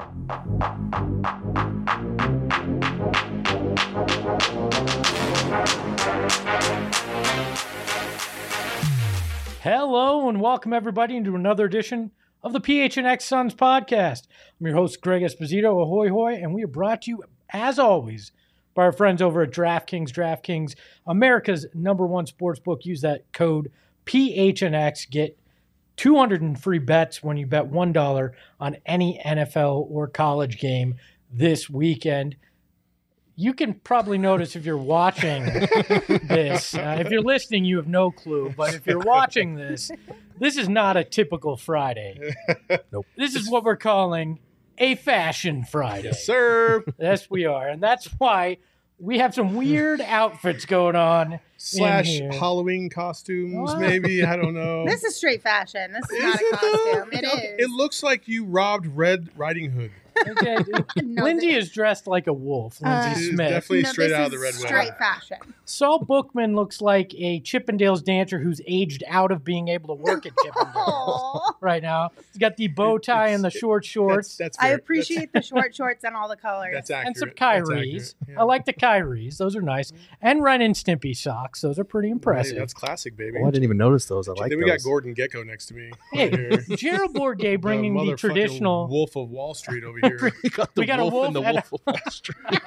Hello and welcome everybody into another edition of the PHNX Suns podcast. I'm your host, Greg Esposito, ahoy hoy, and we are brought to you, as always, by our friends over at DraftKings. DraftKings, America's #1 sportsbook. Use that code PHNX. Get 200 in free bets when you bet $1 on any NFL or college game this weekend. You can probably notice if you're watching this. If you're listening, you have no clue. But if you're watching this, this is not a typical Friday. Nope. This is what we're calling a Fashion Friday. Yes, sir. Yes, we are. And that's why we have some weird outfits going on. Slash Halloween costumes, maybe. I don't know. This is straight fashion. This is not a costume. It is. It looks like you robbed Red Riding Hood. Okay. No, Lindsay is dressed like a wolf. Lindsay She's Smith. definitely straight this out of the is Red straight Wedding. fashion. Saul Bookman looks like a Chippendales dancer who's aged out of being able to work at Chippendales Aw. right now. He's got the bow tie and the short shorts That's I fair. appreciate the short shorts and all the colors. That's accurate. and some That's Kyries. accurate. Yeah. I like the Kyries. Those are nice. And Ren and Stimpy socks. Those are pretty Hey, impressive. that's classic, baby. Oh, I didn't even notice those. I like then those. we got Gordon Gecko next to me. Hey, Right here. Gerald Bourguet bringing the motherfucking traditional. Wolf of Wall Street over here. We got the We got a wolf wolf and the and a- wolf of Wall Street.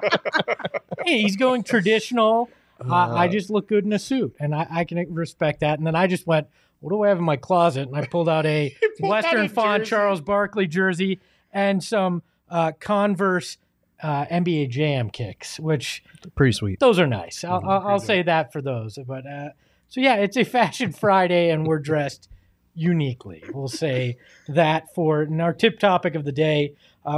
Hey, he's going traditional. I just look good in a suit, and I can respect that. And then I just went, what do I have in my closet? And I pulled out a pulled out Western a Font jersey. Charles Barkley jersey and some Converse NBA Jam kicks, which Pretty sweet. those are nice. I'll say that for those. But so yeah, it's a Fashion Friday, and we're dressed uniquely. We'll say that for and our tip topic of the day.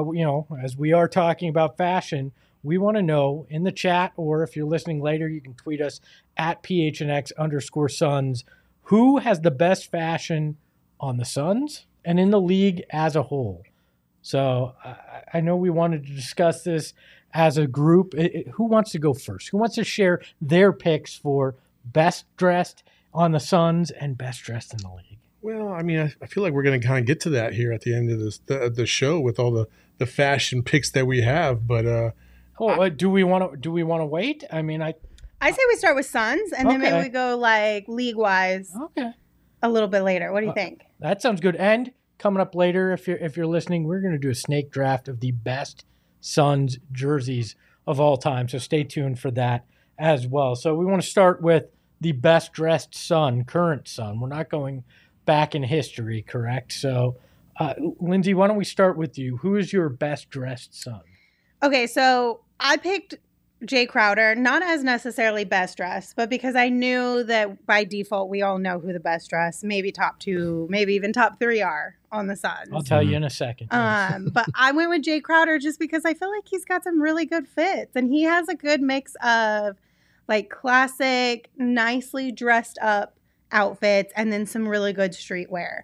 As we are talking about fashion, we want to know in the chat, or if you're listening later, you can tweet us at PHNX_Suns. Who has the best fashion on the Suns and in the league as a whole? So I know we wanted to discuss this as a group. Who wants to go first? Who wants to share their picks for best dressed on the Suns and best dressed in the league? Well, I mean, I feel like we're going to kind of get to that here at the end of the show with all the fashion picks that we have. But Do we want to wait? I mean, I say we start with Suns, and then maybe we go like league-wise okay. a little bit later. What do you think? That sounds good. And coming up later, if you're listening, we're going to do a snake draft of the best Suns jerseys of all time. So stay tuned for that as well. So we want to start with the best dressed Sun, current Sun. We're not going back in history, correct? So, Lindsay, why don't we start with you? Who is your best dressed Sun? Okay, so I picked Jay Crowder, not as necessarily best dressed, but because I knew that by default we all know who the best dressed, maybe top 2, maybe even top 3 are on the Suns. I'll tell you in a second. But I went with Jay Crowder just because I feel like he's got some really good fits, and he has a good mix of like classic, nicely dressed up outfits and then some really good streetwear.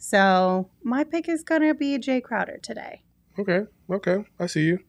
So my pick is gonna be Jay Crowder today. okay, I see you.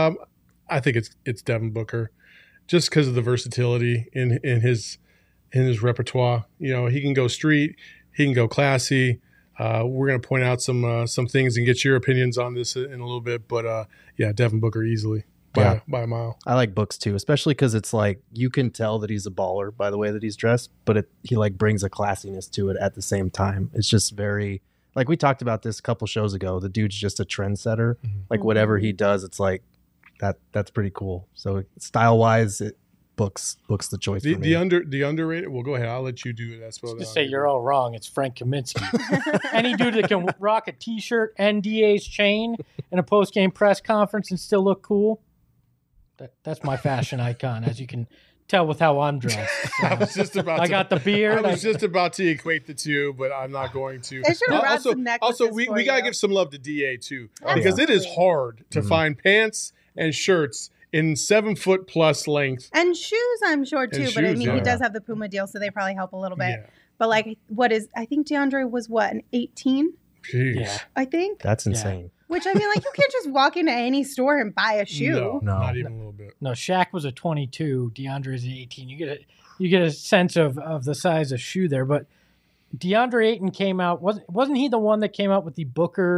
I think it's Devin Booker, just because of the versatility in his repertoire. You know, he can go street, he can go classy. We're going to point out some things and get your opinions on this in a little bit. But yeah, Devin Booker easily by a mile. I like Books too, especially because it's like you can tell that he's a baller by the way that he's dressed, but he like brings a classiness to it at the same time. It's just very like we talked about this a couple shows ago. The dude's just a trendsetter. Mm-hmm. Like whatever he does, it's like that's pretty cool. So style wise, Books the choice for me. The underrated. Well, go ahead. I'll let you do it. That's what. Just say you're all wrong. It's Frank Kaminsky. Any dude that can rock a T-shirt and DA's chain in a post-game press conference and still look cool, that's my fashion icon, as you can tell with how I'm dressed. So, I was just about. I got the beard. I was just about to equate the two, but I'm not going to. They should wrap some necklaces Also, we for gotta you. give some love to DA too, Oh, because yeah. it is hard to find pants and shirts in 7 foot plus length. And shoes, I'm sure too. And But I shoes, mean, yeah. he does have the Puma deal, so they probably help a little bit. Yeah. But like, I think DeAndre was an 18, Jeez. Yeah. I think. That's insane. Which I mean, like, you can't just walk into any store and buy a shoe. No, No. not even a little bit. No, Shaq was a 22. DeAndre is an 18. You get a sense of the size of shoe there. But DeAndre Ayton came out. Wasn't he the one that came out with the Booker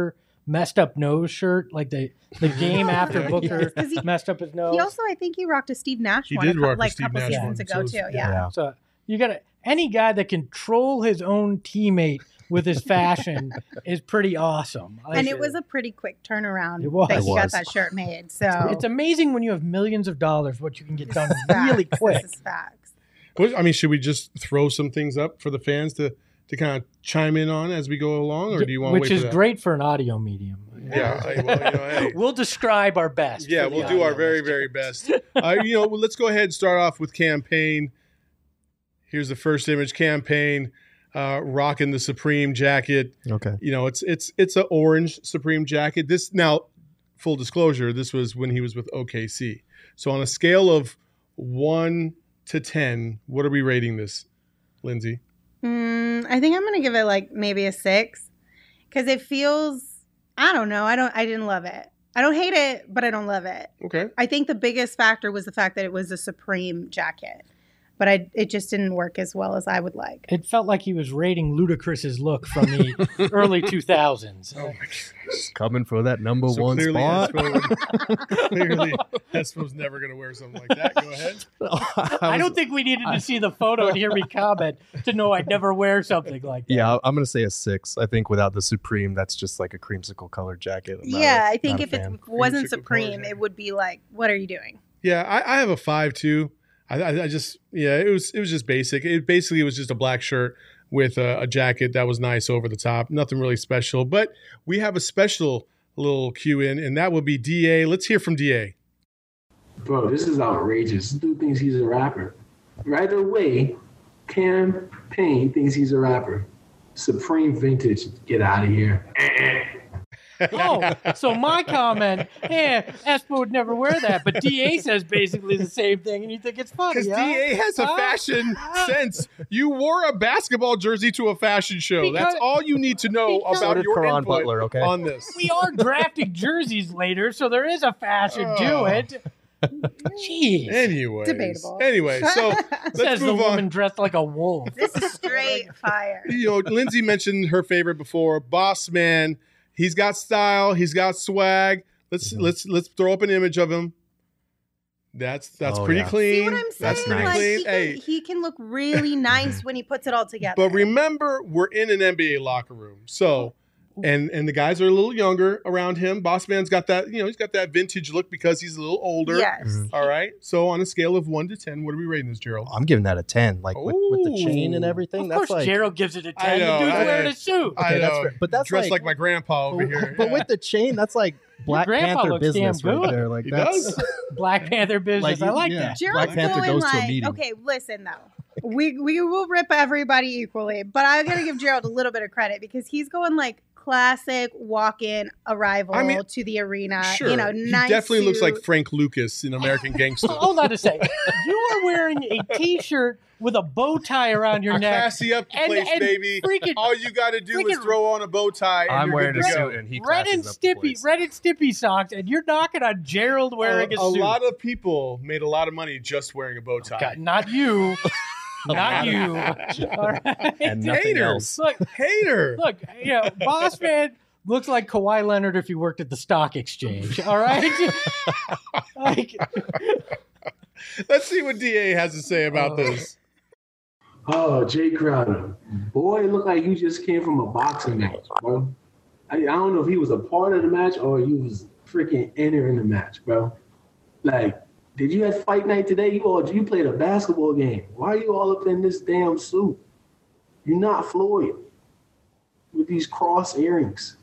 messed up nose shirt, like the game after Yeah. Booker 'Cause he- messed up his nose. He also, I think he rocked a Steve Nash He one did rock a like a Steve couple Nash seasons one, ago so too. it's- Yeah. So you got any guy that can troll his own teammate with his fashion is pretty awesome. And it was a pretty quick turnaround It was. that It he was. got that shirt made. So It's amazing when you have millions of dollars what you can get done facts. really quick. This is facts. I mean, should we just throw some things up for the fans to kind of chime in on as we go along, or do you want to Which wait is for that? great for an audio medium. Yeah, hey. We'll describe our best. Yeah, for the we'll do our audio very, listeners. very best. Let's go ahead and start off with campaign. Here's the first image. Campaign, rocking the Supreme jacket. Okay. It's an orange Supreme jacket. This now, full disclosure, this was when he was with OKC. So on a scale of 1 to 10, what are we rating this, Lindsay? I think I'm gonna give it like maybe a 6 because it feels. I don't know. I didn't love it. I don't hate it, but I don't love it. Okay. I think the biggest factor was the fact that it was a Supreme jacket, but it just didn't work as well as I would like. It felt like he was rating Ludacris's look from the early 2000s. Oh my gosh. Coming for that number So one clearly, spot. clearly, Espo's never going to wear something like that. Go ahead. I don't think we needed to see the photo and hear me comment to know I'd never wear something like that. Yeah, I'm gonna say a 6. I think without the Supreme, that's just like a creamsicle colored jacket. I'm not Yeah, a- I think not a if it fan. wasn't Creamsicle Supreme, color it would be like, what are you doing? Yeah, I have a 5 too. I just it was just basic. It basically was just a black shirt with a jacket that was nice over the top. Nothing really special, but we have a special little cue in, and that would be DA. Let's hear from DA. Bro, this is outrageous. This dude thinks he's a rapper. Right away, Campaign thinks he's a rapper. Supreme vintage, get out of here. Oh, so my comment, Espo would never wear that, but DA says basically the same thing, and you think it's funny. Because huh? DA has a Huh? fashion sense. You wore a basketball jersey to a fashion show. That's Because- all you need to know because- So about did your Karan input Butler, okay? on this. We are drafting jerseys later, so there is a fashion to Oh. it. Jeez. Anyways, Debatable. Anyway, so let's Says the move on. woman dressed like a wolf. This is straight fire. Lindsay mentioned her favorite before, Boss Man. He's got style. He's got swag. Let's throw up an image of him. That's Oh, pretty yeah. clean. See what I'm saying? That's pretty Like, clean. he, can, Hey, he can look really nice when he puts it all together. but remember, we're in an NBA locker room, so and the guys are a little younger around him. Boss Man's got that, he's got that vintage look because he's a little older. yes. Mhm. All right. So on a scale of 1 to 10, what are we rating this, Gerald? I'm giving that a 10. Like with the chain and Ooh. everything. Of That's course, like Gerald gives it a 10. I know, the dude's I wearing know. a suit. I Okay, that's know. fair. But that's dressed like- like my grandpa over here. But with the chain, that's like Black grandpa Panther looks damn business right good. there. Like He that's does. Black Panther business. I like yeah. that. Gerald's Black Panther going goes to a like, meeting. okay, listen though. We will rip everybody equally, but I gotta give Gerald a little bit of credit because he's going like classic walk-in arrival I mean, to the arena. Sure. You know, he nice definitely looks like suit. Frank Lucas in American Gangster. Hold on a second. You are wearing a T-shirt with a bow tie around your I neck. classy up the place, baby. freaking All you got to do is freaking- throw on a bow tie. And I'm you're wearing good a to go. suit and he Red and classes up the Stippy, place. Red and Stippy socks, and you're knocking on Gerald wearing a suit. lot of people made a lot of money just wearing a bow tie. God, not you. Not you. All right. and nothing Haters. else. Look, Hater. look, Boss Man looks like Kawhi Leonard if he worked at the stock exchange. All right? Like, Let's see what DA has to say about this. Oh, Jay Crowder. Boy, it looked like you just came from a boxing match, bro. I don't know if he was a part of the match or you was freaking entering the match, bro. Like, did you have fight night today? You played a basketball game. Why are you all up in this damn suit? You're not Floyd with these cross earrings.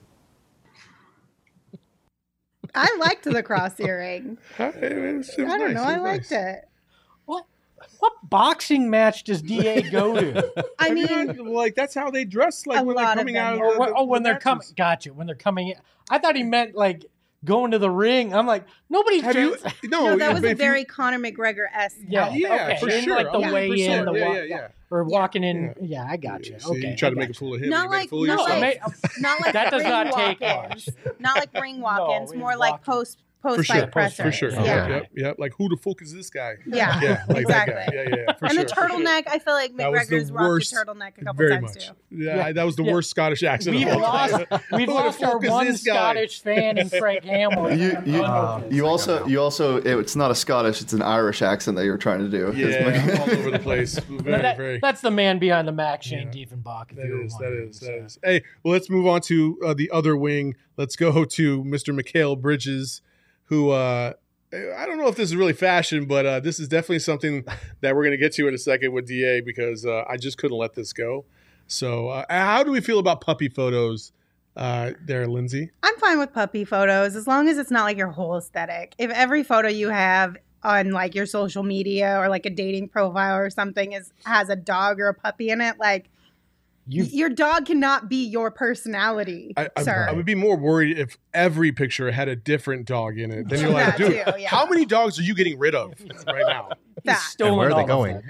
I liked the cross earring. I don't know. I liked it. what boxing match does DA go to? I mean, like that's how they dress. Like A when they're lot of coming them, out. yeah. Of the, when they're coming. Gotcha. When they're coming in. I thought he meant like going to the ring. I'm like, nobody's Have you? dressed- No, no, that was but a if you- very Conor McGregor-esque Yeah, outfit. Yeah, okay. for In, sure. like the 100%. way in, the walk, yeah. or walking in. Yeah, I got you. So Okay, you try I to make a got fool of him. Not you make a like- fool of not yourself. like- Not like That does ring not take walk-ins. much. Not like ring walk-ins. No, more he's like walking. post-fight presser. For sure. Yeah. Yep. Like, who the fuck is this guy? Yeah, Yeah, like exactly. that guy. Yeah. For And sure. the turtleneck, I feel like That was the McGregor's rocked worst- a turtleneck a couple Very times much. too. Yeah, that was the worst Scottish accent. We've of all lost, time. we've Who the lost our fuck is one this guy? Scottish fan in Frank Hamill. You also it's not a Scottish, it's an Irish accent that you're trying to do. Yeah, all over the place. Very. That's the man behind the Mac, Shane Diefenbach. That is. Hey, well, let's move on to the other wing. Let's go to Mr. Mikhail Bridges, who I don't know if this is really fashion, but this is definitely something that we're going to get to in a second with DA because I just couldn't let this go. So how do we feel about puppy photos there, Lindsay? I'm fine with puppy photos as long as it's not like your whole aesthetic. If every photo you have on like your social media or like a dating profile or something has a dog or a puppy in it, like your dog cannot be your personality, sir. I would be more worried if every picture had a different dog in it. Then you're like, dude, how many dogs are you getting rid of right now? And where are they going?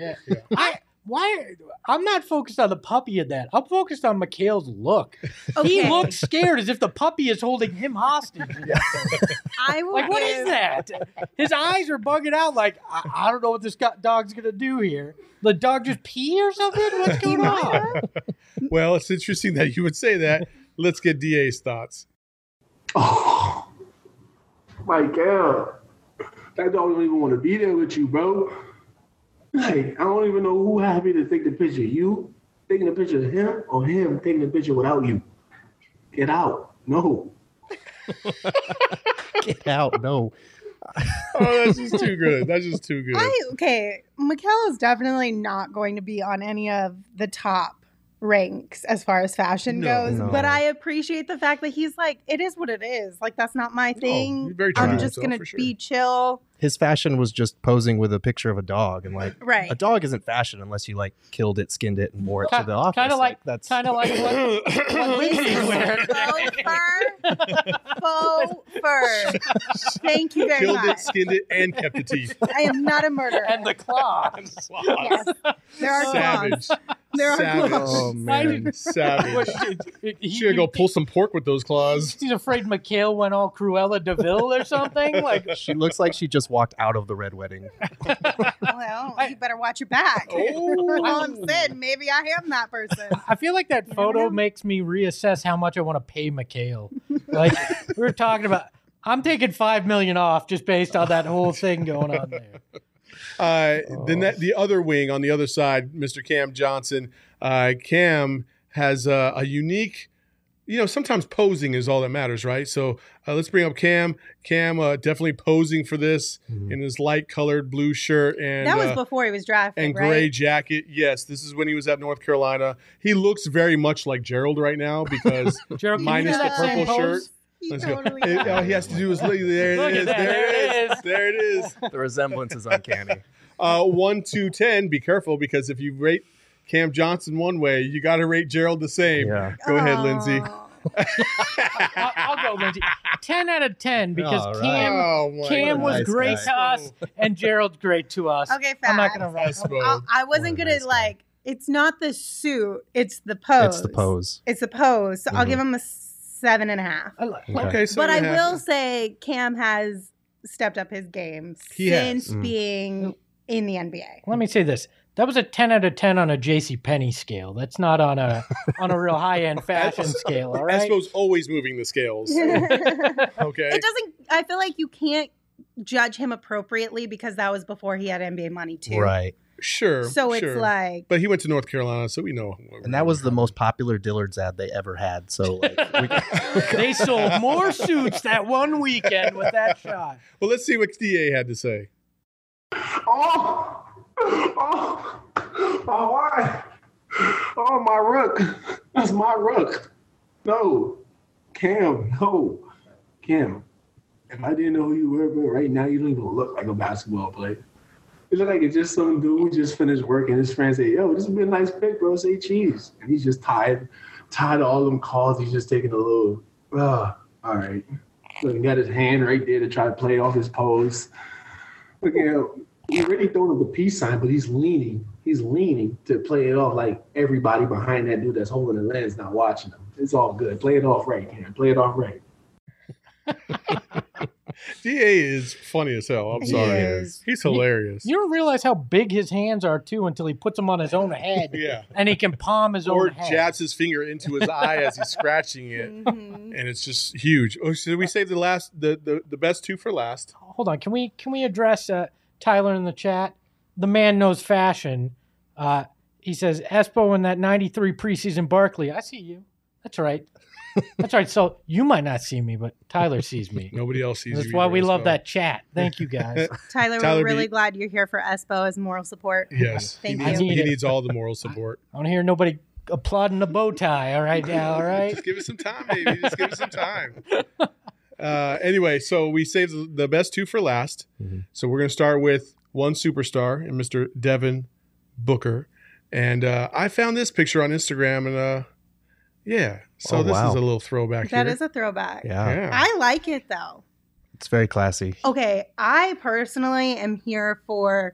I'm not focused on the puppy in that. I'm focused on Mikhail's look. Okay. He looks scared as if the puppy is holding him hostage. What is that? His eyes are bugging out like, I don't know what this dog's going to do here. The dog just pee or something? What's going on? Well, it's interesting that you would say that. Let's get DA's thoughts. Oh, my God. That dog don't even want to be there with you, bro. Like, I don't even know who happy to take the picture. You taking a picture of him or him taking a picture without you? Get out. No. Get out. No. Oh, that's just too good. That's just too good. Mikhail is definitely not going to be on any of the top ranks as far as fashion goes. No. But I appreciate the fact that he's like, it is what it is. Like, that's not my thing. he's very true to I'm just himself, going for to sure. be chill. His fashion was just posing with a picture of a dog, and like, Right. a dog isn't fashion unless you like killed it, skinned it, and wore it to the office. Kind of like that's what Lindsay's wearing. Faux fur. Thank you very Killed much. it, skinned it, and kept the teeth. I am not a murderer. And the claws. Yes. There are Savage. claws. There are Savage. claws. oh man. Savage. She's gonna go pull some pork with those claws. He's afraid Mikhail went all Cruella de Vil or something. Like, She looks like she just walked out of the red wedding. Well, you better watch your back. Oh. All I'm saying, maybe I am that person. I feel like that photo makes me reassess how much I want to pay Mikhail. Like we were talking about, I'm taking $5 million off just based on that whole thing going on there. Then the other wing on the other side, Mr. Cam Johnson. Cam has a unique, sometimes posing is all that matters, right? So let's bring up Cam. Cam definitely posing for this in his light colored blue shirt and That was before he was drafted, and right? gray jacket. Yes, this is when he was at North Carolina. He looks very much like Gerald right now because Gerald, can you minus do the that same purple shirt. He Let's totally go. does. All he has to do is look. There Look it at is. that. There it is. The resemblance is uncanny. 1 to 10. Be careful because if you rate Cam Johnson one way, you got to rate Gerald the same. Yeah. Go ahead, Lindsay. Oh. I'll go, Lindsay. 10 out of 10 because All right. Cam was nice great guy. to us and Gerald's great to us. Okay, I'm not fast. going to write. I wasn't What a gonna nice guy. it's not the suit, it's the pose. It's the pose. It's the pose. So I'll give him a 7.5. Okay, so But I will say Cam has stepped up his game He has. since being in the NBA. Let me say this. That was a 10 out of 10 on a JCPenney scale. That's not on a real high-end fashion scale, all right? Espo's always moving the scales. Okay. It doesn't. I feel like you can't judge him appropriately because that was before he had NBA money too. Right. Sure. So sure. it's like, But he went to North Carolina, so we know. And that was the most popular Dillard's ad they ever had. So like, They sold more suits that one weekend with that shot. Well, let's see what DA had to say. Oh, why? Oh, my rook. That's my rook. No, Cam, no. Cam, if I didn't know who you were, but right now you don't even look like a basketball player. You look like it's just some dude who just finished work and his friends say, yo, this has been a nice pick, bro. Say cheese. And he's just tired of all them calls. He's just taking a little, all right. Look, he got his hand right there to try to play off his pose. Look at him. He's already throwing up the peace sign, but he's leaning. He's leaning to play it off like everybody behind that dude that's holding the lens not watching him. It's all good. Play it off right, Cam. Play it off right. DA is funny as hell. I'm He sorry. is. He's hilarious. You don't realize how big his hands are too until he puts them on his own head. Yeah. And he can palm his Or own head. jabs his finger into his eye as he's scratching it. Mhm. And it's just huge. Oh, should we save the best two for last? Hold on. Can we address Tyler in the chat? The man knows fashion. He says, Espo in that 93 preseason Barkley. I see you. That's right. That's right. So you might not see me, but Tyler sees me. Nobody else sees That's you why either, we love Espo. that chat. Thank you, guys. Tyler, Tyler, we're really be- glad you're here for Espo as moral support. Yes. Thank he you. needs, I need he it. needs all the moral support. I don't hear nobody applauding the bow tie. All right now, all right? Just give it some time, baby. Just give it some time. Anyway, so we saved the best two for last. Mhm. So we're going to start with one superstar and Mr. Devin Booker. And I found this picture on Instagram, and yeah. So Oh, this wow. is a little throwback That here. is a throwback. Yeah. I like it though. It's very classy. Okay, I personally am here for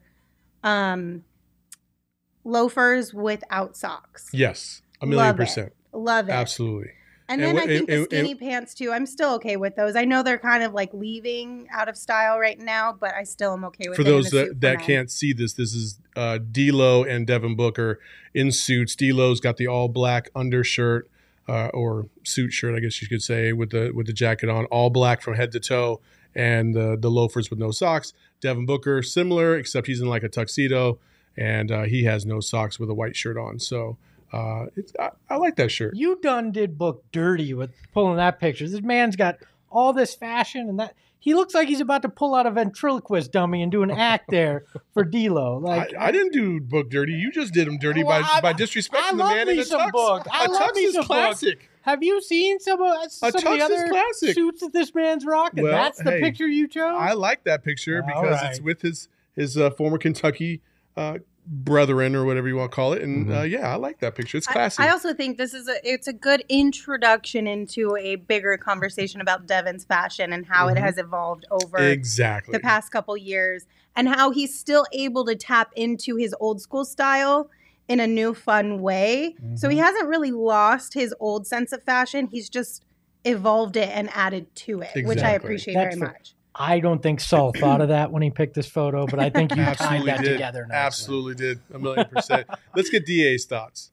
loafers without socks. Yes, a Love million %. Love it. Absolutely. And And then I think the and- skinny pants too. I'm still okay with those. I know they're kind of like leaving out of style right now, but I still am okay with For it in those a suit for that men. can't see this is D'Lo and Devin Booker in suits. D'Lo's got the all black undershirt or suit shirt, I guess you could say, with the jacket on, all black from head to toe, and the loafers with no socks. Devin Booker, similar, except he's in like a tuxedo, and he has no socks with a white shirt on. So I like that shirt. You done did Book dirty with pulling that picture. This man's got all this fashion and that. He looks like he's about to pull out a ventriloquist dummy and do an act there for D'Lo. Like I didn't do Book dirty. You just did him dirty Well, by I disrespecting the love man me in a some tux. Book. I A love tux me is some Book. classic. Have you seen some of the tux is other classic. suits that this man's rocking? Well, That's the hey, picture you chose? I like that picture All because right. it's with his former Kentucky brethren or whatever you want to call it, and yeah, I like that picture. It's classy. I also think this is it's a good introduction into a bigger conversation about Devin's fashion and how it has evolved over exactly. the past couple years and how he's still able to tap into his old school style in a new fun way. So he hasn't really lost his old sense of fashion. He's just evolved it and added to it, which I Exactly. appreciate That's very the- much. I don't think Saul thought of that when he picked this photo, but I think you tied Absolutely that did. together nicely. Absolutely did. 1,000,000%. Let's get DA's thoughts.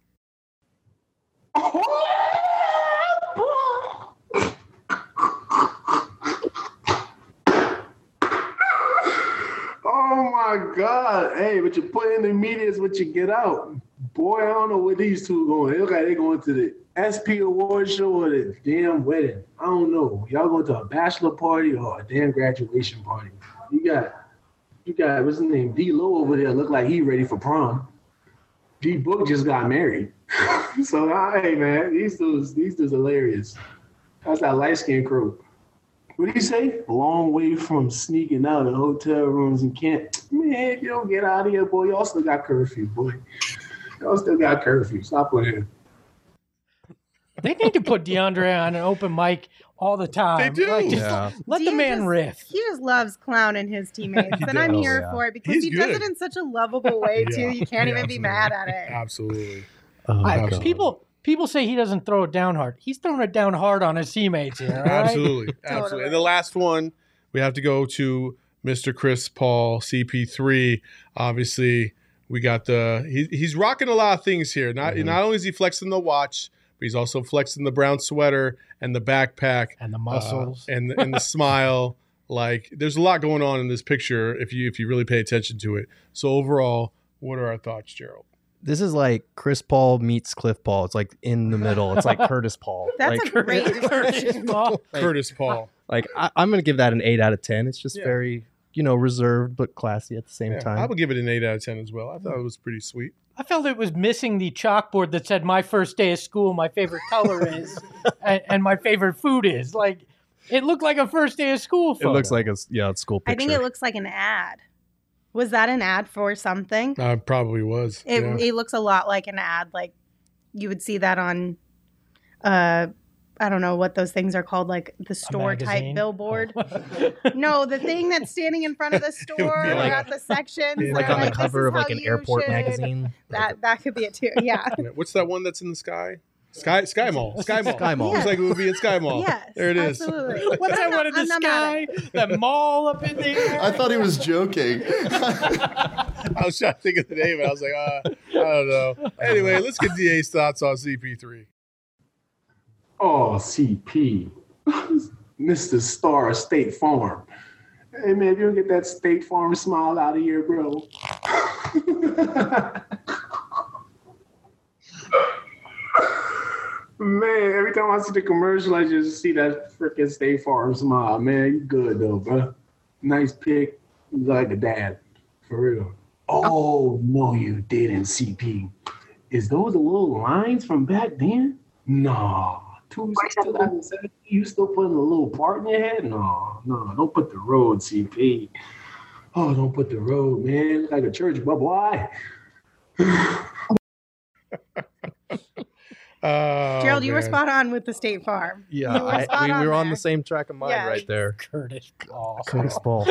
Oh my God. Hey, what you put in the media is what you get out. Boy, I don't know where these two are going. They look like they're going to the SP award show or the damn wedding. I don't know. Y'all going to a bachelor party or a damn graduation party. You got what's his name? D-Lo over there look like he ready for prom. D-Book just got married. So hey man, these dudes hilarious. That's that light-skinned crew. What did he say? A long way from sneaking out of hotel rooms and can't. Man, if you don't get out of here, boy, y'all still got curfew, boy. Y'all still got curfew. Stop playing. They need to put DeAndre on an open mic all the time. They do. Like, just Yeah. let the Dia man just- riff. He just loves clowning his teammates, and I'm does. here Oh, yeah. for it because He's he does good. it in such a lovable way Yeah. too. You can't Yeah, even be absolutely. mad at it. Absolutely. Oh, I- God. people say he doesn't throw it down hard. He's throwing it down hard on his teammates here. All right? Absolutely. Absolutely. And the last one, we have to go to Mr. Chris Paul, CP3. Obviously, we got he's rocking a lot of things here. Not only is he flexing the watch, but he's also flexing the brown sweater and the backpack And the muscles. and the smile. Like, there's a lot going on in this picture if you really pay attention to it. So overall, what are our thoughts, Gerald? This is like Chris Paul meets Cliff Paul. It's like in the middle. It's like Curtis Paul. That's like, a great Curtis description. Paul. Curtis Paul. like I'm going to give that an 8 out of 10. It's just Yeah. very, reserved but classy at the same Yeah, time. I would give it an 8 out of 10 as well. I thought it was pretty sweet. I felt it was missing the chalkboard that said my first day of school, my favorite color is, and my favorite food is. Like, it looked like a first day of school It photo. looks like a school I picture. think it looks like an ad. Was that an ad for something? Probably was. It, yeah. it looks a lot like an ad. Like you would see that on, I don't know what those things are called, like the store type magazine? billboard. No, the thing that's standing in front of the store like- at the sections. like they're on the "This cover is of like how an you airport should-" magazine. That could be it too. Yeah. What's that one that's in the sky? Sky Mall. Sky Mall. Looks like it would be in Sky Mall. Yes, There it is. Absolutely. What's that one in the I'm not mad sky? at That mall up in there? I thought he was joking. I was trying to think of the name, and I was like, I don't know. Anyway, let's get DA's thoughts on CP3. Oh, CP. Mr. Star of State Farm. Hey, man, if you don't get that State Farm smile out of here, bro. Man, every time I see the commercial, I just see that freaking State Farm smile. Man, you good, though, bro. Nice pick. You like a dad. For real. Oh, no, you didn't, CP. Is those the little lines from back then? Nah. You still putting a little part in your head? No, don't put the road, CP. Oh, don't put the road, man. Look like a church, but why? Gerald, you were spot on with the State Farm. Yeah, You were spot we were on there. the same track of mind Yes. right there. Curtis Ball. Curtis Ball.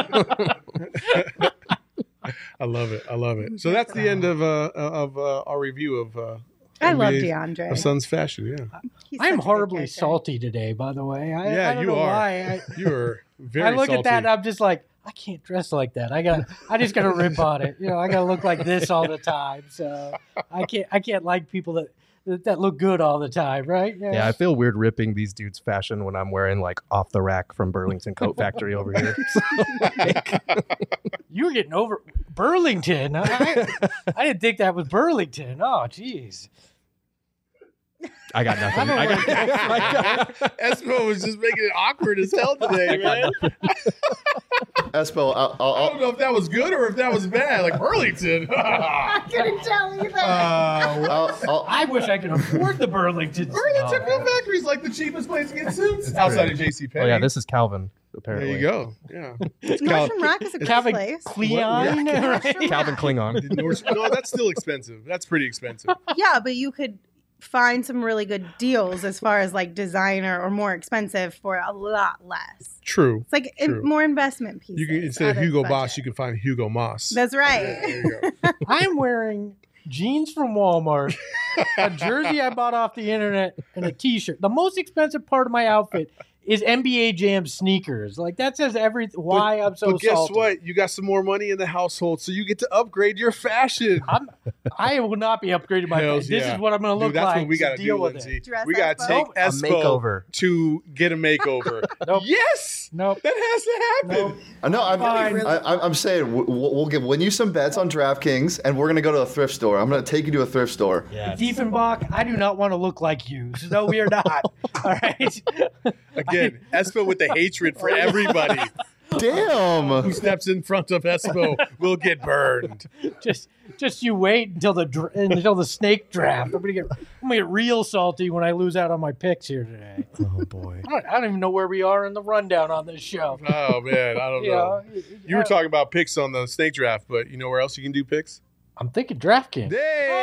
I love it. So that's the end of our review of I love NBA DeAndre. of Suns fashion. Yeah, He's I such am a good horribly character. salty today, by the way. I Yeah, don't you know are. why. you are very. I look salty. at that and I'm just like, I can't dress like that. I just gotta rip on it. I gotta look like this all the time. So I can't like people that look good all the time, right? Yeah, I feel weird ripping these dudes' fashion when I'm wearing like off the rack from Burlington Coat Factory over here. So, You were getting over Burlington. I didn't think that was Burlington. Oh, jeez. I got nothing. Espo was just making it awkward as hell today, man. Espo, I don't know if that was good or if that was bad. Like Burlington. I couldn't tell either. I wish I could afford the Burlington. Burlington Coat Factory is like the cheapest place to get suits outside of JCPenney. Oh yeah, this is Calvin. There Apparently, you go. Yeah. Mushroom Rock is a good Calvin place. Klein, right? Calvin Klingon. No, that's still expensive. That's pretty expensive. Yeah, but you could find some really good deals as far as like designer or more expensive for a lot less. True. It's like True. more investment pieces. You can instead of out Hugo budget. Boss, you can find Hugo Moss. That's right. There you go. I'm wearing jeans from Walmart, a jersey I bought off the internet, and a t-shirt. The most expensive part of my outfit is NBA Jam sneakers. Like that says why I'm so But guess salty. what? You got some more money in the household, so you get to upgrade your fashion. I will not be upgrading my Hells face. This yeah. is what I'm going to look Dude, that's like. what we to got to deal do, with Lindsay. it. Dress We got to Espo? take A Espo makeover. to get a makeover. Nope. Yes, Nope. that has to happen. Nope. No, Fine. I'm saying we'll win you some bets on DraftKings, and we're gonna go to a thrift store. I'm gonna take you to a thrift store. Yeah. Diefenbach, I do not want to look like you. No, we are not. All right. Again, Espo with the hatred for everybody who Damn. steps in front of Espo will get burned. Just you wait until the snake draft. I'm gonna get real salty when I lose out on my picks here today. Oh boy. I don't even know where we are in the rundown on this show. Oh man, I don't know. You were talking about picks on the snake draft, but you know where else you can do picks? I'm thinking DraftKings.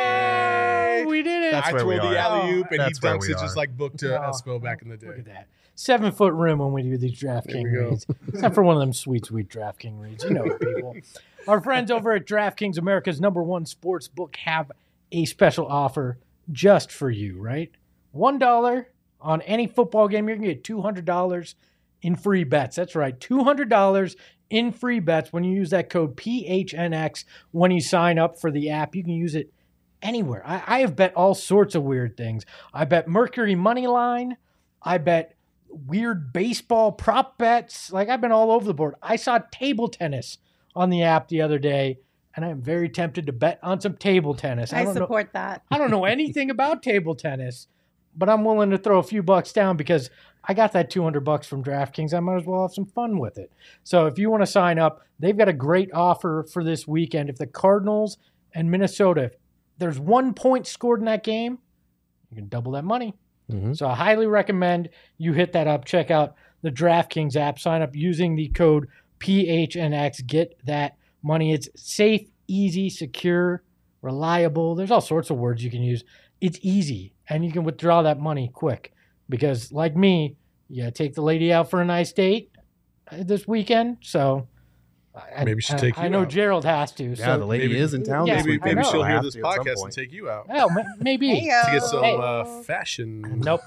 Hey! Oh, we did it. That's I where we twirled the are. alley oop and he That's where dunks we it just are. like booked to Espo back in the Look day. at that. 7 foot rim when we do these There DraftKings we go. reads. Except for one of them sweet DraftKings reads. You know it, people. Our friends over at DraftKings, America's #1 sports book, have a special offer just for you, right? $1 on any football game, you're going to get $200 in free bets. That's right, $200 in free bets when you use that code PHNX when you sign up for the app. You can use it anywhere. I have bet all sorts of weird things. I bet Mercury money line. I bet weird baseball prop bets. Like I've been all over the board. I saw table tennis on the app the other day, and I'm very tempted to bet on some table tennis. I don't know. support that. I don't know anything about table tennis, but I'm willing to throw a few bucks down because I got that $200 from DraftKings. I might as well have some fun with it. So if you want to sign up, they've got a great offer for this weekend. If the Cardinals and Minnesota, if there's 1 point scored in that game, you can double that money. Mm-hmm. So I highly recommend you hit that up. Check out the DraftKings app. Sign up using the code PHNX. Get that money. It's safe, easy, secure, reliable. There's all sorts of words you can use. It's easy, and you can withdraw that money quick because, like me, you gotta take the lady out for a nice date this weekend. So Maybe we should take you I know out. Gerald has to. Yeah, So the lady maybe- is in town. Yeah, this Maybe, weekend. maybe I she'll know. hear Have this to at some podcast point. and take you out well, maybe. Heyo. to get some Hey. fashion. Nope.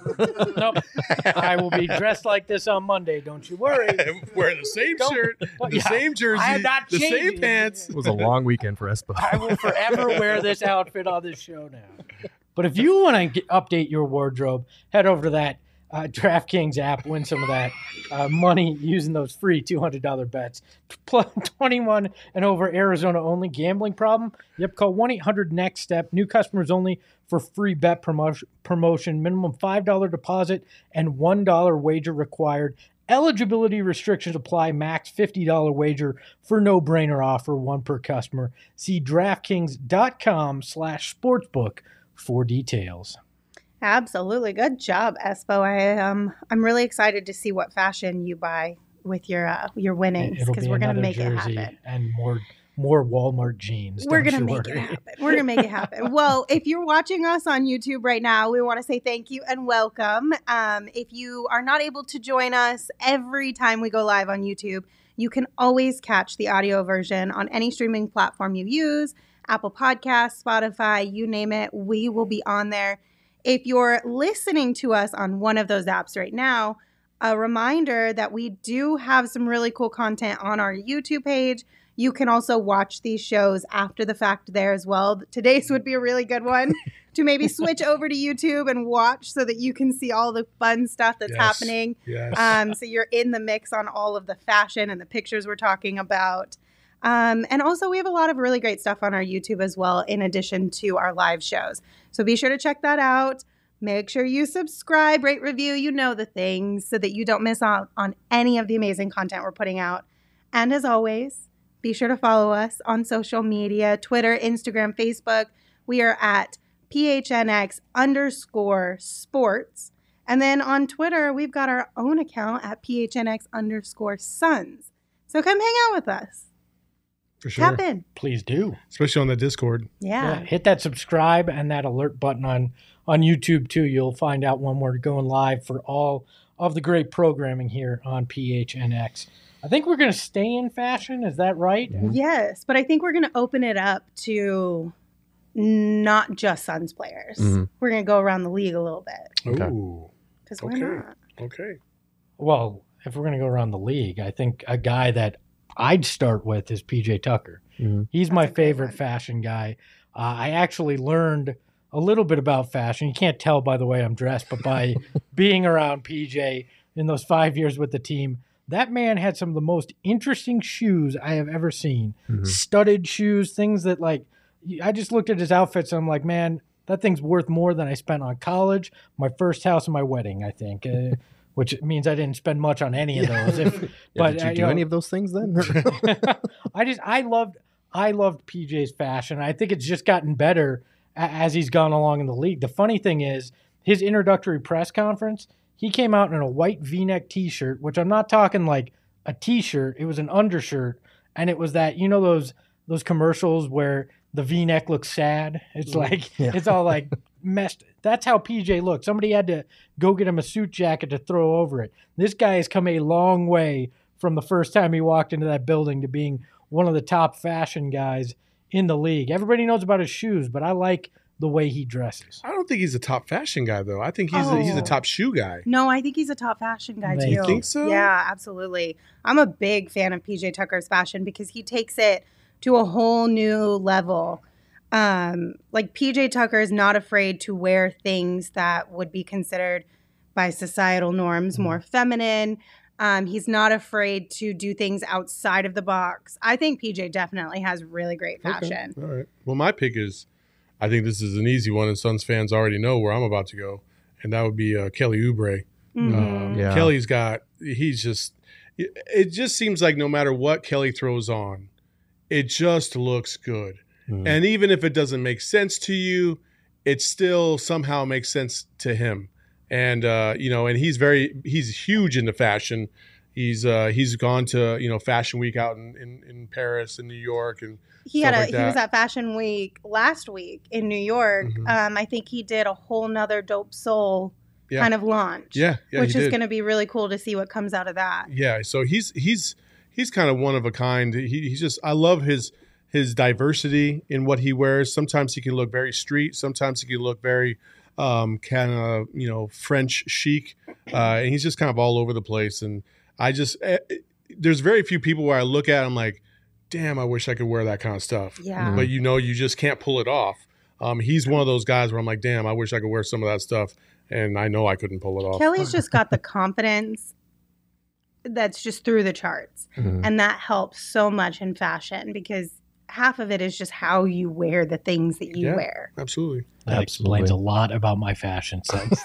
I will be dressed like this on Monday. Don't you worry. Wearing the same Don't- shirt, Well, the yeah, same jersey, I am not the same changing. pants. It was a long weekend for Espo. I will forever wear this outfit on this show now. But if you want to update your wardrobe, head over to that DraftKings app, win some of that money using those free $200 bets. Plus 21 and over, Arizona only. Gambling problem? Yep, call 1-800-NEXT-STEP. New customers only for free bet promotion. Minimum $5 deposit and $1 wager required. Eligibility restrictions apply. Max $50 wager for no-brainer offer, one per customer. See DraftKings.com/sportsbook for details. Absolutely. Good job, Espo. I'm really excited to see what fashion you buy with your winnings, It'll because be we're going to another make it jersey happen. and more Walmart jeans. We're Don't going to you make it worry. happen. We're going to make it happen. Well, if you're watching us on YouTube right now, we want to say thank you and welcome. If you are not able to join us every time we go live on YouTube, you can always catch the audio version on any streaming platform you use, Apple Podcasts, Spotify, you name it. We will be on there. If you're listening to us on one of those apps right now, a reminder that we do have some really cool content on our YouTube page. You can also watch these shows after the fact there as well. Today's would be a really good one to maybe switch over to YouTube and watch so that you can see all the fun stuff that's Yes. happening. Yes. So you're in the mix on all of the fashion and the pictures we're talking about. And also, we have a lot of really great stuff on our YouTube as well, in addition to our live shows. So be sure to check that out. Make sure you subscribe, rate, review, you know the things, so that you don't miss out on any of the amazing content we're putting out. And as always, be sure to follow us on social media, Twitter, Instagram, Facebook. We are at PHNX_sports. And then on Twitter, we've got our own account at PHNX_sons. So come hang out with us. For sure. Tap in. Please do. Especially on the Discord. Yeah. Hit that subscribe and that alert button on YouTube too. You'll find out when we're going live for all of the great programming here on PHNX. I think we're going to stay in fashion. Is that right? Yes, but I think we're going to open it up to not just Suns players. Mhm. We're going to go around the league a little bit, Okay. Ooh. because why Okay. not? Okay. Well, if we're going to go around the league, I think a guy that I'd start with is PJ Tucker. Mhm. He's my That's a great favorite one. fashion guy. I actually learned a little bit about fashion. You can't tell by the way I'm dressed, but by being around PJ in those 5 years with the team, that man had some of the most interesting shoes I have ever seen. Mhm. Studded shoes, things that like, I just looked at his outfits and I'm like, man, that thing's worth more than I spent on college, my first house, and my wedding, I think. Which means I didn't spend much on any of those. Yeah, But did you do know, any of those things then? I loved PJ's fashion. I think it's just gotten better as he's gone along in the league. The funny thing is, his introductory press conference, he came out in a white V-neck T-shirt, which I'm not talking like a T-shirt. It was an undershirt, and it was that, you know, those commercials where the V-neck looks sad. It's like it's all like messed. That's how PJ looked. Somebody had to go get him a suit jacket to throw over it. This guy has come a long way from the first time he walked into that building to being one of the top fashion guys in the league. Everybody knows about his shoes, but I like the way he dresses. I don't think he's a top fashion guy, though. I think he's a top shoe guy. No, I think he's a top fashion guy, You too. think so? Yeah, absolutely. I'm a big fan of PJ Tucker's fashion because he takes it to a whole new level. Like PJ Tucker is not afraid to wear things that would be considered by societal norms more feminine. He's not afraid to do things outside of the box. I think PJ definitely has really great fashion. Okay. All right. Well, my pick is, I think this is an easy one, and Suns fans already know where I'm about to go, and that would be Kelly Oubre. Mhm. Yeah. Kelly's got, it just seems like no matter what Kelly throws on, it just looks good. Mhm. And even if it doesn't make sense to you, it still somehow makes sense to him. And, and he's huge into fashion. He's gone to, Fashion Week out in Paris and New York. And He stuff had like he was that. at Fashion Week last week in New York. Mhm. I think he did a whole nother Dope Soul Yeah. kind of launch. yeah, which he is did. going to be really cool to see what comes out of that. Yeah, so he's he's kind of one of a kind. He's just, I love his diversity in what he wears. Sometimes he can look very street. Sometimes he can look very kind of, French chic. And he's just kind of all over the place. And I just, there's very few people where I look at him like, damn, I wish I could wear that kind of stuff. Yeah. But you just can't pull it off. He's one of those guys where I'm like, damn, I wish I could wear some of that stuff. And I know I couldn't pull it off. Kelly's just got the confidence that's just through the charts. Mhm. And that helps so much in fashion because half of it is just how you wear the things that you Yeah. wear. Absolutely. That explains a lot about my fashion sense.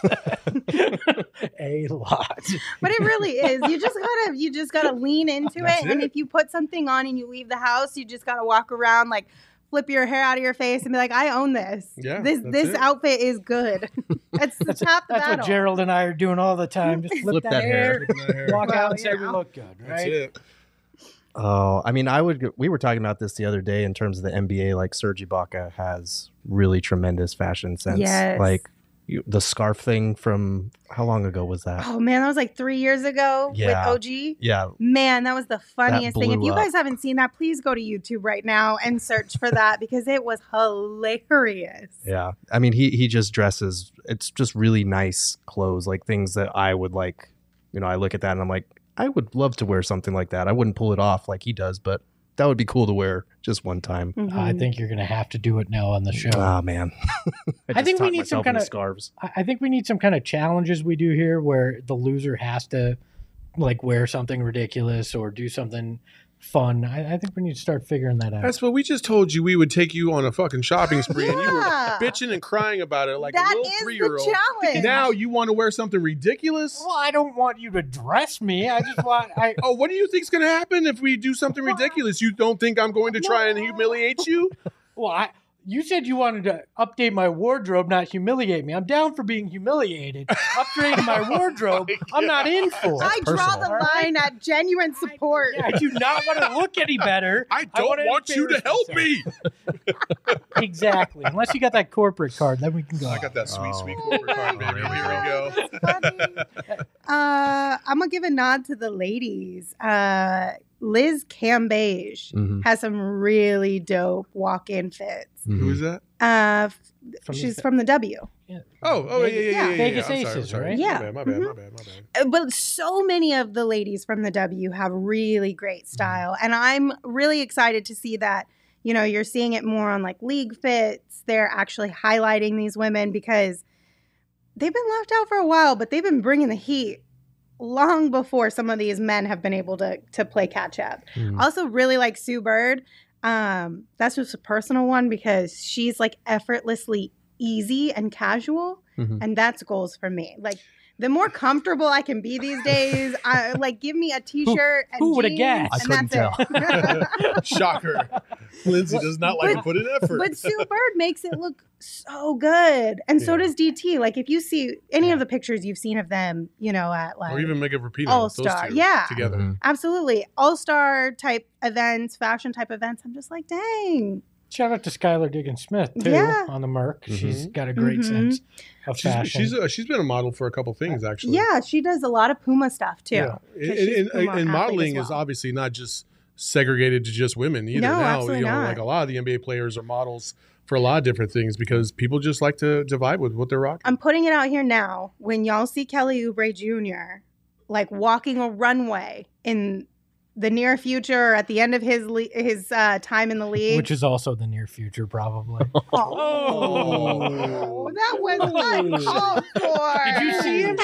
A lot. But it really is. You just gotta lean into That's it. And it. if you put something on and you leave the house, you just gotta walk around like flip your hair out of your face and be like, I own this. Yeah, This that's it. outfit is good. That's half the That's battle. what Gerald and I are doing all the time. Just flip that hair, Flipping that hair. walk Well, out and say you we know. look good, That's right? it. Oh, I mean, we were talking about this the other day in terms of the NBA. Like Serge Ibaka has really tremendous fashion sense. Yes. Like the scarf thing from how long ago was that? Oh man, that was like 3 years ago Yeah. with OG. Yeah, Man, that was the funniest thing. If blew you up. guys haven't seen that, please go to YouTube right now and search for that because it was hilarious. yeah. I mean, he just dresses. It's just really nice clothes, like things that I would like. I look at that and I'm like, I would love to wear something like that. I wouldn't pull it off like he does, but that would be cool to wear just one time. I Mhm. think you're going to have to do it now on the show. Ah, man. I think just we talked need some myself kind into of- scarves. I think we need some kind of challenges we do here where the loser has to like wear something ridiculous or do something fun. I think we need to start figuring that out. That's what we just told you. We would take you on a fucking shopping spree, and you were Yeah. bitching and crying about it like That a little is the 3-year-old. challenge. Now you want to wear something ridiculous? Well, I don't want you to dress me. I just want Oh, what do you think's going to happen if we do something ridiculous? You don't think I'm going to try and humiliate you? you said you wanted to update my wardrobe, not humiliate me. I'm down for being humiliated. Upgrading my wardrobe, I'm not in for. I draw personal. the line at genuine support. I do not want to look any better. I don't wanna want you to embarrass help myself. me. Exactly. Unless you got that corporate card, then we can go. I got that sweet, Oh. sweet corporate card, baby. There we Here we go. Funny. I'm gonna give a nod to the ladies. Liz Cambage Mhm. has some really dope walk-in fits. Who is that? She's from the W. Oh, yeah. Vegas I'm sorry, Aces, I'm sorry. right? Yeah. My bad. But so many of the ladies from the W have really great style. And I'm really excited to see that, you're seeing it more on like league fits. They're actually highlighting these women because they've been left out for a while, but they've been bringing the heat long before some of these men have been able to play catch up. Mhm. Also really like Sue Bird. That's just a personal one because she's like effortlessly easy and casual. Mhm. And that's goals for me. Like the more comfortable I can be these days, give me a t-shirt and who would've jeans, guessed? I and couldn't that's it. Shocker. Lindsay does not like to put in effort. But Sue Bird makes it look so good. And so Yeah. does DT. Like if you see any of the pictures you've seen of them, at like or even Mega Rapinoe. All-Star, Those two yeah. together. Mhm. absolutely all-star type events, fashion type events, I'm just like, dang. Shout out to Skylar Diggins Smith too Yeah. on the Merc. Mm-hmm. She's got a great Mhm. sense of fashion. She's been a model for a couple things actually. Yeah, she does a lot of Puma stuff too. Yeah. 'Cause she's And, a Puma and modeling athlete as is well. obviously not just segregated to just women either. No, Now, absolutely not. like a lot of the NBA players are models for a lot of different things because people just like to vibe with what they're rocking. I'm putting it out here now. When y'all see Kelly Oubre Jr. like walking a runway in the near future or at the end of his time in the league, which is also the near future, probably. oh, that was uncalled for. Did you see him?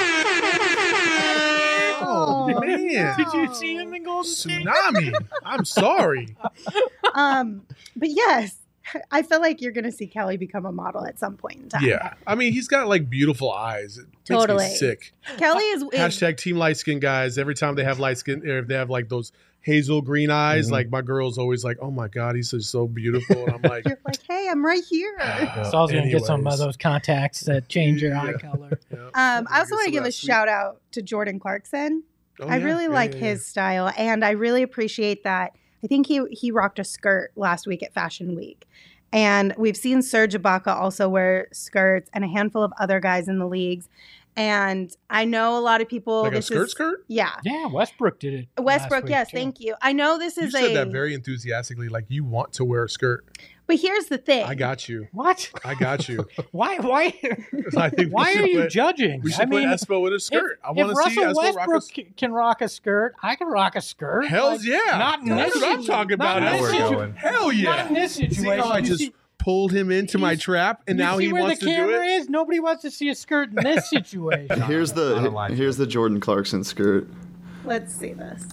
Oh, man. Did you see him in Golden State? Tsunami. I'm sorry. But yes, I feel like you're gonna see Kelly become a model at some point in time. Yeah. I mean, he's got like beautiful eyes. It makes Totally. me sick. Kelly is Hashtag team light skin guys. Every time they have light skin, or if they have like those hazel green eyes, Mhm. like my girl's always like, oh my God, he's just so beautiful. And I'm like, You're like, hey, I'm right here. So I was going to get some of Anyways. those contacts that change your eye Yeah. color. yeah. I also want to Some of give that a sweet- shout out to Jordan Clarkson. Oh, I yeah. really Yeah, like yeah, his style, and I really appreciate that. I think he rocked a skirt last week at Fashion Week. And we've seen Serge Ibaka also wear skirts and a handful of other guys in the leagues. And I know a lot of people. Like a this skirt is, skirt? Yeah. Yeah, Westbrook did it. Westbrook, last week, yes, too. thank you. I know this You is said that very enthusiastically, like you want to wear a skirt. But here's the thing. I got you. What? I got you. Why? I think we Why should are you put- judging? We should I mean, put Espo in a skirt. I if want to see Russell Espo rock a Westbrook can rock a skirt, I can rock a skirt. Hell's yeah. Not in That's this what I'm talking not about. in this We're situ- going. Hell yeah. Not in this situation. See how I You just see- pulled him into my trap, and you now see he where wants the to do camera it? is? Nobody wants to see a skirt in this situation. Here's Not a lie. the Jordan Clarkson skirt. Let's see this.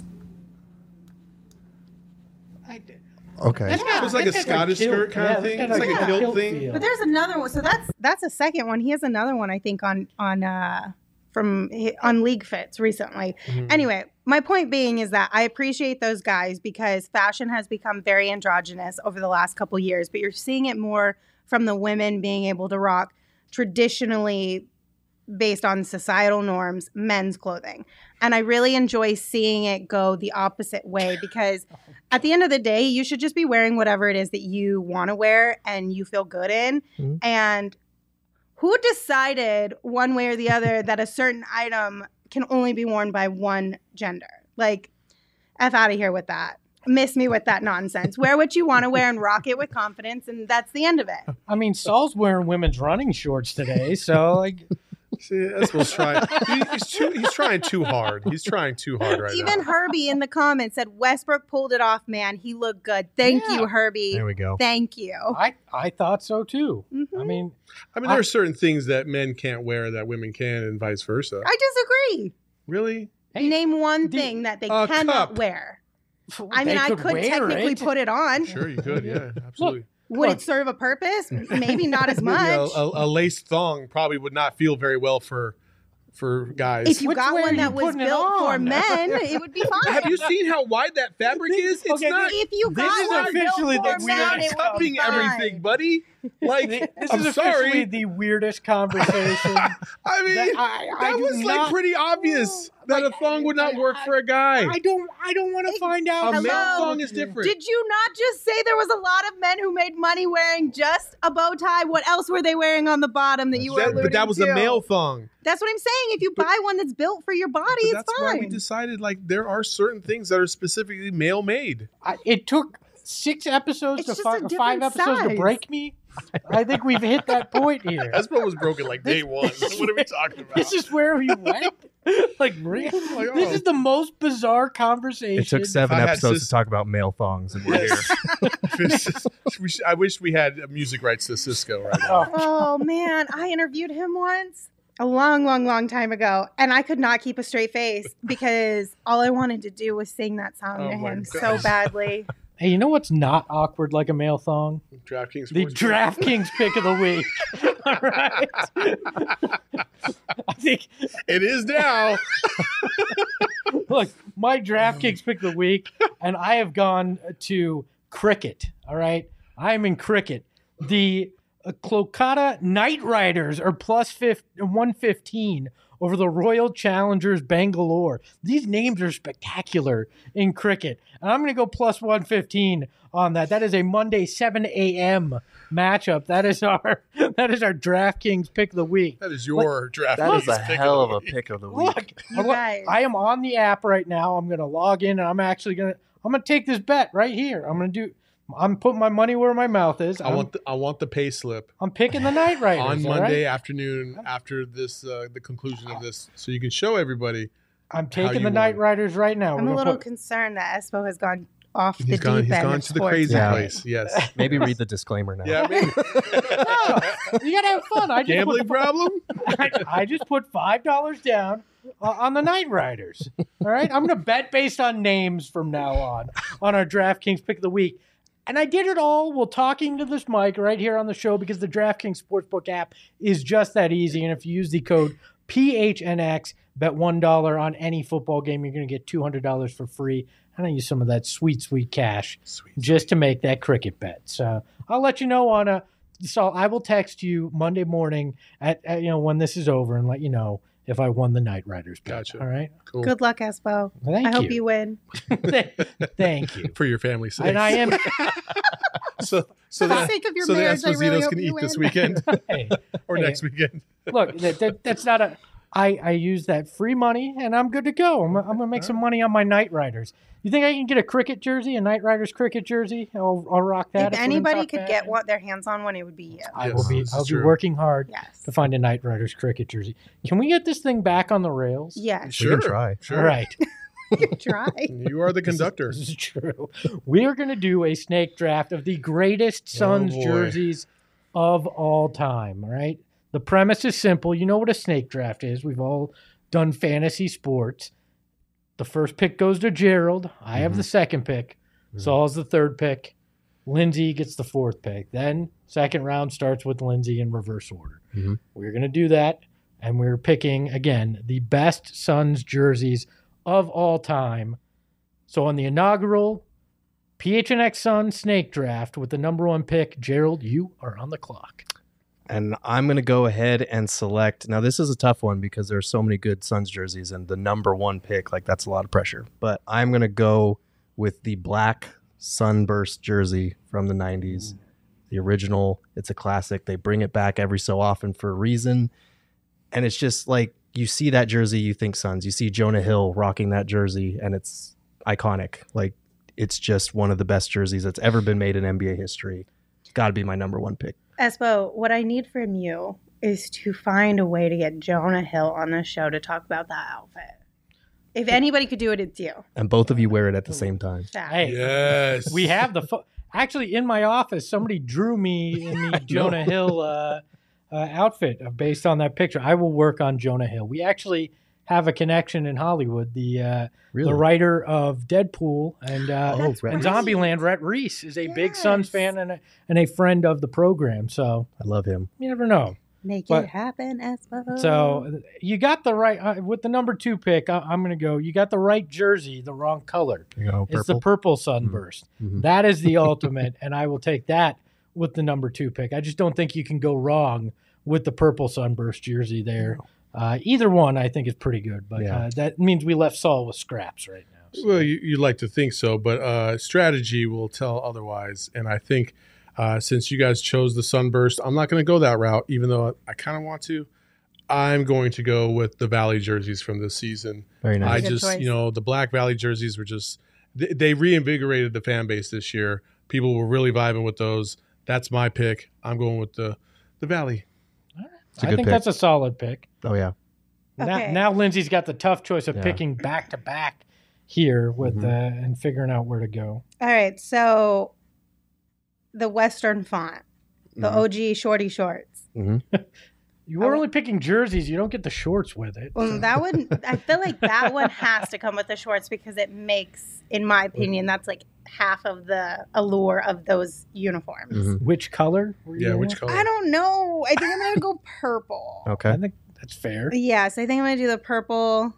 Okay. It's like a Scottish skirt kind of thing. It's like a kilt thing. But there's another one. So that's a second one. He has another one, I think, on League Fits recently. Anyway, my point being is that I appreciate those guys because fashion has become very androgynous over the last couple years, but you're seeing it more from the women being able to rock traditionally based on societal norms, men's clothing. And I really enjoy seeing it go the opposite way because at the end of the day, you should just be wearing whatever it is that you want to wear and you feel good in. Mhm. And who decided one way or the other that a certain item can only be worn by one gender? Like, F out of here with that. Miss me with that nonsense. Wear what you want to wear and rock it with confidence, and that's the end of it. I mean, Saul's wearing women's running shorts today, so like, See, Espo's trying. He's trying too hard. He's trying too hard right Even now. Herbie in the comments said Westbrook pulled it off, man. He looked good. Thank Yeah. you, Herbie. There we go. Thank you. I thought so too. Mhm. I mean, I mean, there are certain things that men can't wear that women can, and vice versa. I disagree. Really? hey, Name one the- thing that they a cannot cup. wear. they I mean, I could wear technically it. put it on. Sure, you could. Yeah, absolutely. Would Look. it serve a purpose? Maybe not as You much. know, a lace thong probably would not feel very well for guys. If you Which got way are one you that was putting it built for on? men, it would be fine. Have you seen how wide that fabric is? It's Okay, not. If you This got is one officially built the for We men, are it would be cupping fine. everything, buddy. Like, This I'm is officially sorry. the weirdest conversation. I mean, that that, I do was like not- pretty obvious that a thong would not work for a guy. I don't want to find out. A male Hello? thong is different. Did you not just say there was a lot of men who made money wearing just a bow tie? What else were they wearing on the bottom that you were alluding But that was to? a male thong. That's what I'm saying. If you buy one that's built for your body, But it's that's why we fine. decided like there are certain things that are specifically male made. It took 6 episodes It's to just a 5 different episodes to size. break me. I think we've hit that point here. Espo was broken like day one. What are we talking about? This is where we went. Like, really? Like, This oh. is the most bizarre conversation. It took 7 I had episodes sis- to talk about male thongs, and we're here. I wish we had music rights to Cisco right now. Oh man, I interviewed him once a long time ago, and I could not keep a straight face because all I wanted to do was sing that song Oh to my him so gosh. badly. Hey, you know what's not awkward like a male thong? DraftKings. The Sportsbook. DraftKings pick of the week. All right. I think, It is now. look, my DraftKings pick of the week, and I have gone to cricket. All right. I am in cricket. The Kolkata Knight Riders are plus 115 over the Royal Challengers Bangalore. These names are spectacular in cricket. And I'm going to go plus 115 on that. That is a Monday 7 a.m. matchup. That is our DraftKings pick of the week. That is your DraftKings. That is a pick hell of of the a week. pick of the week. Look, You guys. I am on the app right now. I'm going to log in and I'm going to take this bet right here. I'm putting my money where my mouth is. I want the pay slip I'm picking the Knight Riders on all Monday right? afternoon after this the conclusion of this, so you can show everybody. I'm how taking you the Knight won. Riders right now. I'm We're a gonna little put- concerned that Espo has gone off the He's deep gone. end. He's gone of to the sports crazy betting. place. Yes. Maybe read the disclaimer now. Yeah. Maybe. You gotta have fun. I just Gambling problem. I just put $5 down on the Knight Riders. All right, I'm gonna bet based on names from now on our DraftKings pick of the week. And I did it all while talking to this mic right here on the show because the DraftKings Sportsbook app is just that easy. And if you use the code PHNX, bet $1 on any football game, you're going to get $200 for free. And I use some of that sweet cash just to make that cricket bet. So I'll let you know so I will text you Monday morning at when this is over and let you know if I won the Knight Riders bet. Gotcha. All right. Cool. Good luck, Espo. Thank I hope you win. Thank you. For your family's sake. And I am. so For the that sake of your so marriage, the I really Espositos hope can you eat this win. weekend Hey, or Hey. next weekend. look, that's not a. I use that free money and I'm good to go. I'm going to make some money on my Knight Riders. You think I can get a cricket jersey, a Knight Riders cricket jersey? I'll rock that. If anybody could get their hands on one, it would be you. I'll be working hard to find a Knight Riders cricket jersey. Can we get this thing back on the rails? Yes. Sure. We can try. Sure. All right. You can try. You are the conductor. This is true. We are going to do a snake draft of the greatest Suns jerseys of all time. All right. The premise is simple. You know what a snake draft is. We've all done fantasy sports. The first pick goes to Gerald. I have the second pick. Saul's the third pick. Lindsay gets the fourth pick. Then second round starts with Lindsay in reverse order. We're going to do that. And we're picking, again, the best Suns jerseys of all time. So on the inaugural PHNX Sun snake draft with the number 1 pick, Gerald, you are on the clock. And I'm going to go ahead and select. Now, this is a tough one because there are so many good Suns jerseys, and the number 1 pick, like, that's a lot of pressure. But I'm going to go with the black Sunburst jersey from the 90s. The original. It's a classic. They bring it back every so often for a reason. And it's just like, you see that jersey, you think Suns. You see Jonah Hill rocking that jersey, and it's iconic. Like, it's just one of the best jerseys that's ever been made in NBA history. It's got to be my number 1 pick. Espo, what I need from you is to find a way to get Jonah Hill on the show to talk about that outfit. If anybody could do it, it's you. And both of you wear it at the same time. Hey, Yes. we have the actually in my office. Somebody drew me in the Jonah Hill outfit based on that picture. I will work on Jonah Hill. We actually have a connection in Hollywood. The writer of Deadpool and Zombieland, Rhett Reese, is a big Suns fan and a friend of the program. So I love him. you never know. Make it happen, Espo. So you got the right with the number 2 pick. I'm going to go. You got the right jersey, the wrong color. It's the purple Sunburst. That is the ultimate, and I will take that with the number 2 pick. I just don't think you can go wrong with the purple Sunburst jersey there. Either one, I think, is pretty good, but that means we left Saul with scraps right now. So. Well, you'd like to think so, but strategy will tell otherwise. And I think since you guys chose the Sunburst, I'm not going to go that route, even though I kind of want to. I'm going to go with the Valley jerseys from this season. Very nice. I just, the Black Valley jerseys were just, they reinvigorated the fan base this year. People were really vibing with those. That's my pick. I'm going with the Valley. I think that's a solid pick. Oh, yeah. Okay. Now Lindsay's got the tough choice of picking back to back here with and figuring out where to go. All right, so the Western font, the OG shorty shorts. You were only picking jerseys. You don't get the shorts with it. Well, that one, I feel like that one has to come with the shorts because it makes, in my opinion, that's like half of the allure of those uniforms. Which color? Which color? I don't know. I think I'm going to go purple. Okay. I think that's fair. Yes, I think I'm going to do the purple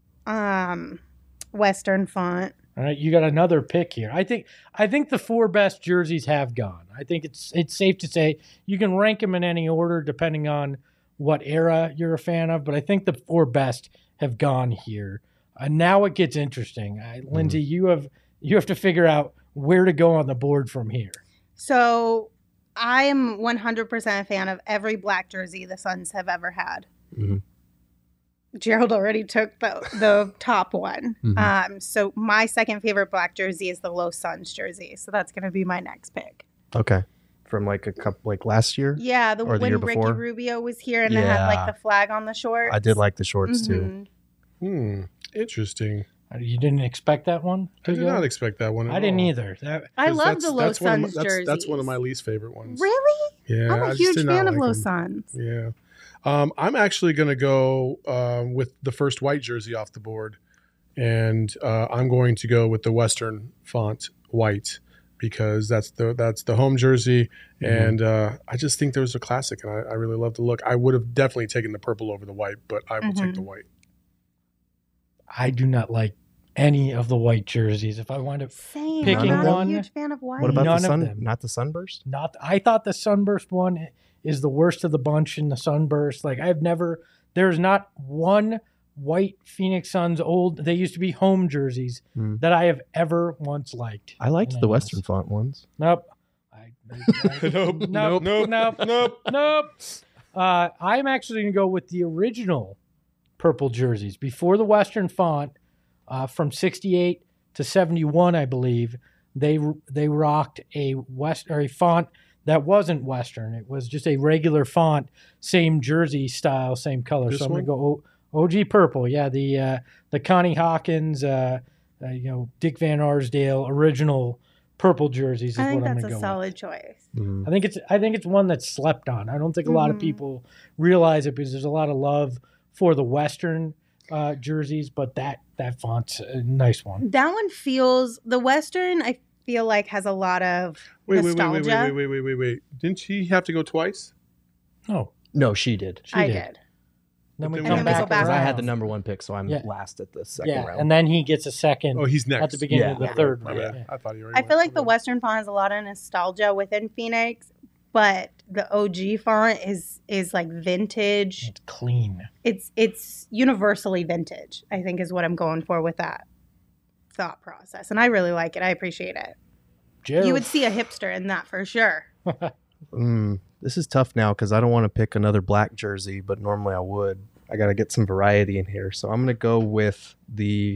Western font. All right, you got another pick here. I think the 4 best jerseys have gone. I think it's safe to say you can rank them in any order depending on what era you're a fan of, but I think the 4 best have gone here. Now it gets interesting. Lindsay, you have to figure out where to go on the board from here. So I am 100% a fan of every black jersey the Suns have ever had. Gerald already took the top one. So my second favorite black jersey is the Los Suns jersey. So that's going to be my next pick. Okay. From like a couple, like last year? Yeah, or the when year Ricky before? Rubio was here and they had like the flag on the shorts. I did like the shorts too. Interesting. You didn't expect that one? I did not expect that one at I didn't all. either. I love the Los Suns jerseys. That's one of my least favorite ones. Really? Yeah. I'm a huge fan of Los Suns. Yeah. I'm actually going to go with the first white jersey off the board. And I'm going to go with the Western font white because that's the home jersey. And I just think there was a classic, and I really love the look. I would have definitely taken the purple over the white, but I will take the white. I do not like any of the white jerseys. If I wind up Same. picking I'm not one, a huge fan of white. What about None the of sun? them. Not the Sunburst? I thought the Sunburst one is the worst of the bunch in the Sunburst. Like there's not one white Phoenix Suns they used to be home jerseys that I have ever once liked. I liked the Western font ones. Nope. Nope. I'm actually going to go with the original purple jerseys. Before the Western font, from 68 to 71, I believe, they rocked a font that wasn't Western. It was just a regular font, same jersey style, same color. This so I'm going to one? go OG purple. Yeah, the Connie Hawkins, Dick Van Arsdale original purple jerseys is I think what I'm that's going to a go solid choice. Mhm. I think it's one that's slept on. I don't think a lot of Mhm. people realize it because there's a lot of love for the Western jerseys, but that font's a nice one. That one feels the Western. I feel like has a lot of nostalgia. Wait. Didn't she have to go twice? Oh, No, she did. she I did. did. Then we And come then we back go back Because I had the around. number one pick, so I'm Yeah. last at the second Yeah, round. and then he gets a second Oh, he's next. at the beginning of the Yeah. third My round. bad. I thought you were. I feel like the Western font has a lot of nostalgia within Phoenix, but the OG font is like vintage. It's clean. It's universally vintage, I think is what I'm going for with that thought process. And I really like it. I appreciate it. Gerald. You would see a hipster in that for sure. This is tough now because I don't want to pick another black jersey, but normally I would. I got to get some variety in here, so I'm going to go with the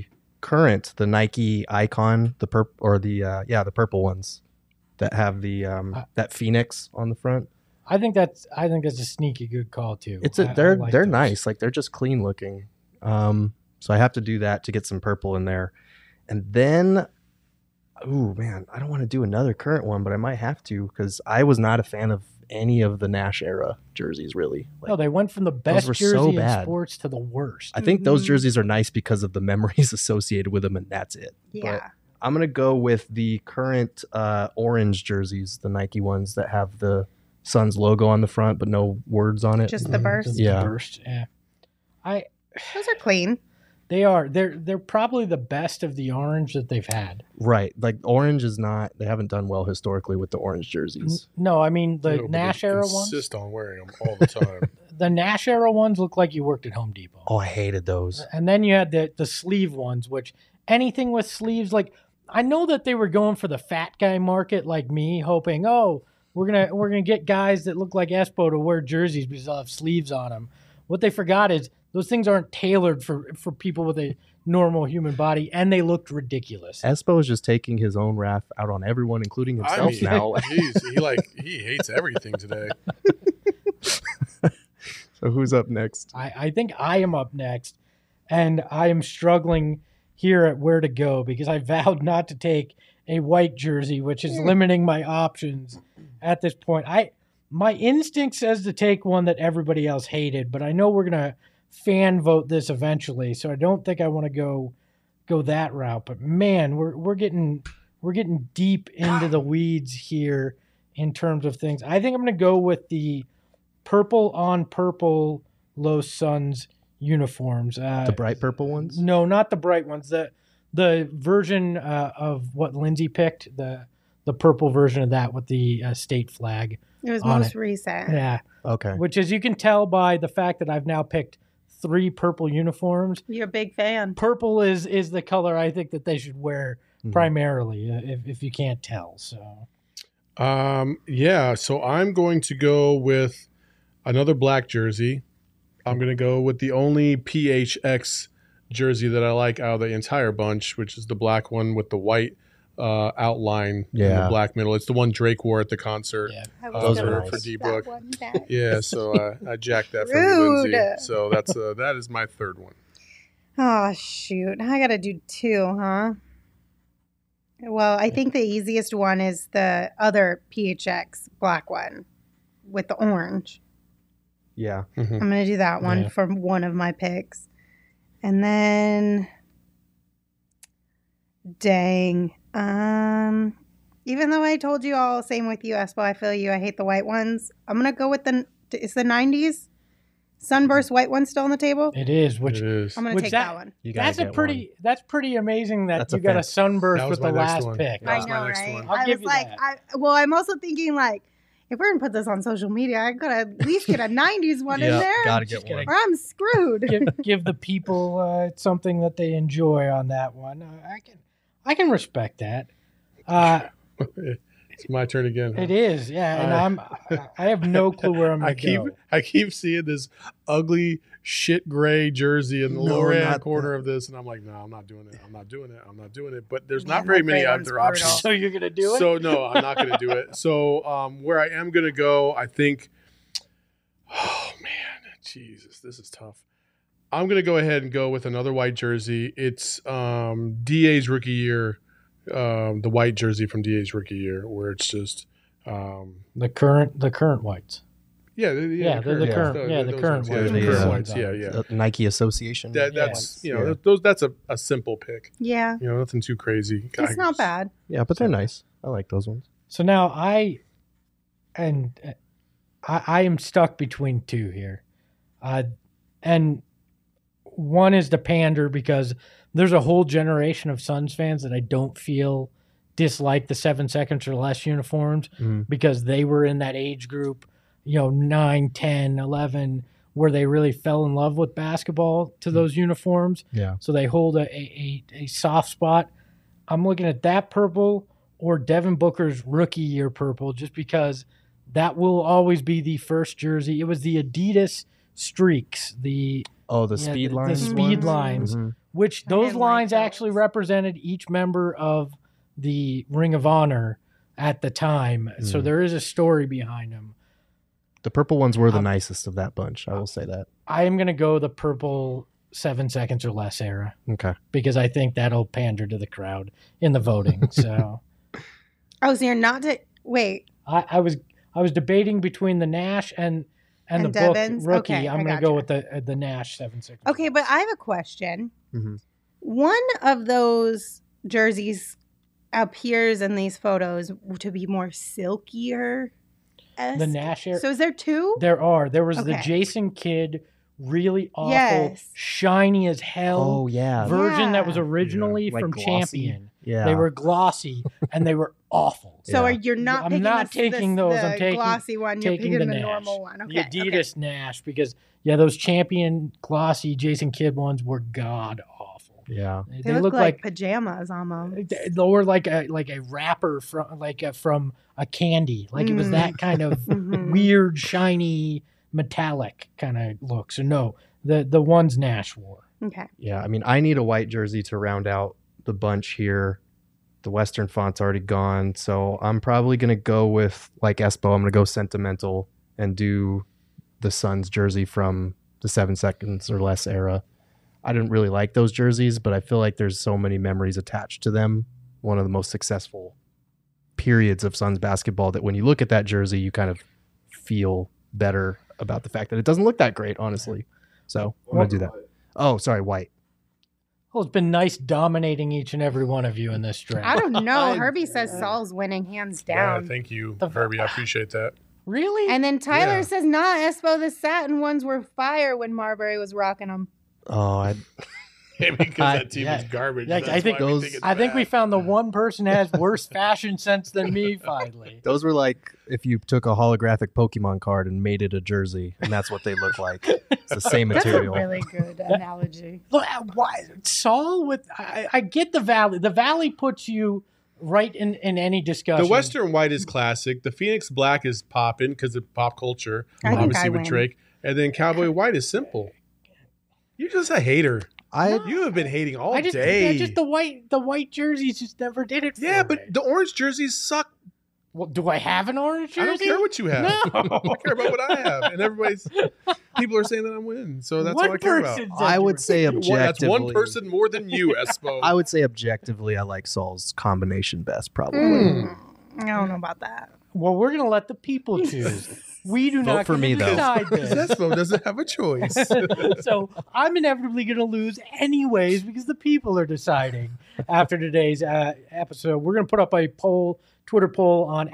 Nike Icon, the purple ones that have the that Phoenix on the front. I think that's a sneaky good call too. I They're like they're those. nice, like they're just clean looking. So I have to do that to get some purple in there, and then, ooh man, I don't want to do another current one, but I might have to because I was not a fan of any of the Nash era jerseys really. Like, No, they went from the best were jersey so in bad. sports to the worst. I think those Mhm. jerseys are nice because of the memories associated with them, and that's it. Yeah. I'm gonna go with the current orange jerseys, the Nike ones that have the Suns logo on the front but no words on it. Just the burst. Just Yeah. the burst. Yeah. Those are clean. They are. They're probably the best of the orange that they've had. Right, like orange is not. They haven't done well historically with the orange jerseys. No, I mean the No, but Nash they era ones. insist on wearing them all the time. The Nash era ones look like you worked at Home Depot. Oh, I hated those. And then you had the sleeve ones, which anything with sleeves, like I know that they were going for the fat guy market, like me, hoping, we're gonna get guys that look like Espo to wear jerseys because they'll have sleeves on them. What they forgot is those things aren't tailored for people with a normal human body, and they looked ridiculous. Espo is just taking his own wrath out on everyone, including I himself mean, now. he hates everything today. So who's up next? I think I am up next, and I am struggling here at where to go because I vowed not to take a white jersey, which is limiting my options at this point. My instinct says to take one that everybody else hated, but I know we're gonna fan vote this eventually, so I don't think I want to go that route. But man, we're getting deep into the weeds here in terms of things. I think I'm gonna go with the purple on purple Los Suns uniforms. The bright purple ones? No, not the bright ones. The version of what Lindsay picked, the purple version of that with the state flag. It was On most it. recent. Yeah, Okay. which as you can tell by the fact that I've now picked 3 purple uniforms. You're a big fan. Purple is the color I think that they should wear Mhm. primarily, if you can't tell. So So I'm going to go with another black jersey. I'm going to go with the only PHX jersey that I like out of the entire bunch, which is the black one with the white outline in the Yeah. black middle. It's the one Drake wore at the concert. yeah, I Those gonna are pick nice. For that D-Book. one back. Yeah, so I jacked that from you, Rude. Lindsay. So that is my third one. Oh, shoot. I got to do 2, huh? Well, I think the easiest one is the other PHX black one with the orange. Yeah. I'm going to do that one Yeah. for one of my picks. And then, dang. Even though I told you all, same with you, Espo, I feel you, I hate the white ones. I'm going to go with it's the 90s Sunburst white one still on the table? it is. Which It is. I'm going to Which take that- that one. You gotta that's a get pretty that's pretty amazing that That's you a got a fan. sunburst That was with the my next last one. pick. That I was know, my next right? one. I'll I give was you like, that. I'm also thinking like, if we're gonna put this on social media, I gotta at least get a '90s one in Yeah, there, gotta Just get gotta one. or I'm screwed. give the people something that they enjoy on that one. I can respect that. It's my turn again. Huh? It is, yeah. And I have no clue where I'm going to go. I keep seeing this ugly shit gray jersey in the lower hand corner of this, and I'm like, no, I'm not doing it. I'm not doing it. But there's not very many other options. So you're going to do it? So no, I'm not going to do it. So where I am going to go, I think. Oh man, Jesus, this is tough. I'm going to go ahead and go with another white jersey. It's DA's rookie year. The white jersey from DA's rookie year, where it's just the current whites. Yeah, the current whites. Yeah. Nike Association. That's that's a simple pick. Yeah, nothing too crazy. It's not bad. Yeah, but they're nice. I like those ones. So now I am stuck between two here, and one is the pander because there's a whole generation of Suns fans that I don't feel dislike the 7 seconds or less uniforms because they were in that age group, 9, 10, 11, where they really fell in love with basketball to those uniforms. Yeah. So they hold a soft spot. I'm looking at that purple or Devin Booker's rookie year purple just because that will always be the first jersey. It was the Adidas Streaks, the speed lines. The speed lines. Mm-hmm. Which those lines actually represented each member of the Ring of Honor at the time. So there is a story behind them. The purple ones were the nicest of that bunch. I will say that. I am going to go the purple 7 seconds or less era. Okay. Because I think that'll pander to the crowd in the voting. So. So you're not wait. I was debating between the Nash and the Devins? Book rookie. Okay, I'm going to go with the Nash 7 seconds. Okay, but I have a question. Mm-hmm. One of those jerseys appears in these photos to be more silkier. The Nash era. So is there two? There are. There was the Jason Kidd, really awful, shiny as hell version that was originally from glossy. Champion. Yeah. They were glossy and they were awful. So you're not I'm not taking those. The I'm taking glossy one. You're taking picking the the Nash. normal one. Okay. The Adidas Nash because those Champion glossy Jason Kidd ones were god awful. Yeah. They look like pajamas almost. Or like a wrapper from a candy. Like it was that kind of weird, shiny, metallic kind of look. So no, the ones Nash wore. Okay. Yeah, I mean, I need a white jersey to round out the bunch here. The Western font's already gone, so I'm probably going to go with, like Espo, I'm going to go sentimental and do the Suns jersey from the 7 seconds or less era. I didn't really like those jerseys, but I feel like there's so many memories attached to them. One of the most successful periods of Suns basketball that when you look at that jersey, you kind of feel better about the fact that it doesn't look that great, honestly. So I'm going to do that. Oh, sorry, white. Well, it's been nice dominating each and every one of you in this draft. I don't know. Herbie says Saul's winning hands down. Yeah, thank you, Herbie. I appreciate that. Really? And then Tyler says, nah, Espo, the satin ones were fire when Marbury was rocking them. Oh, Maybe because that team is garbage. Yeah, I think we found the one person that has worse fashion sense than me finally. Those were like if you took a holographic Pokemon card and made it a jersey, and that's what they look like. It's the same material. That's a really good analogy. Look, why Saul with I get the Valley. The Valley puts you right in any discussion. The Western white is classic. The Phoenix black is popping because of pop culture, obviously with Drake. And then Cowboy white is simple. You're just a hater. You have been hating all day. Yeah, just the white jerseys just never did it for me. But the orange jerseys suck. Well, do I have an orange jersey? I don't care what you have. No. I care about what I have. And people are saying that I'm winning. So that's all I care about. I would say objectively. That's one person more than you, Espo. I would say objectively, I like Saul's combination best, probably. I don't know about that. Well, we're going to let the people choose. We do not for me, decide this. Espo doesn't have a choice. So I'm inevitably going to lose anyways because the people are deciding after today's episode. We're going to put up a Twitter poll on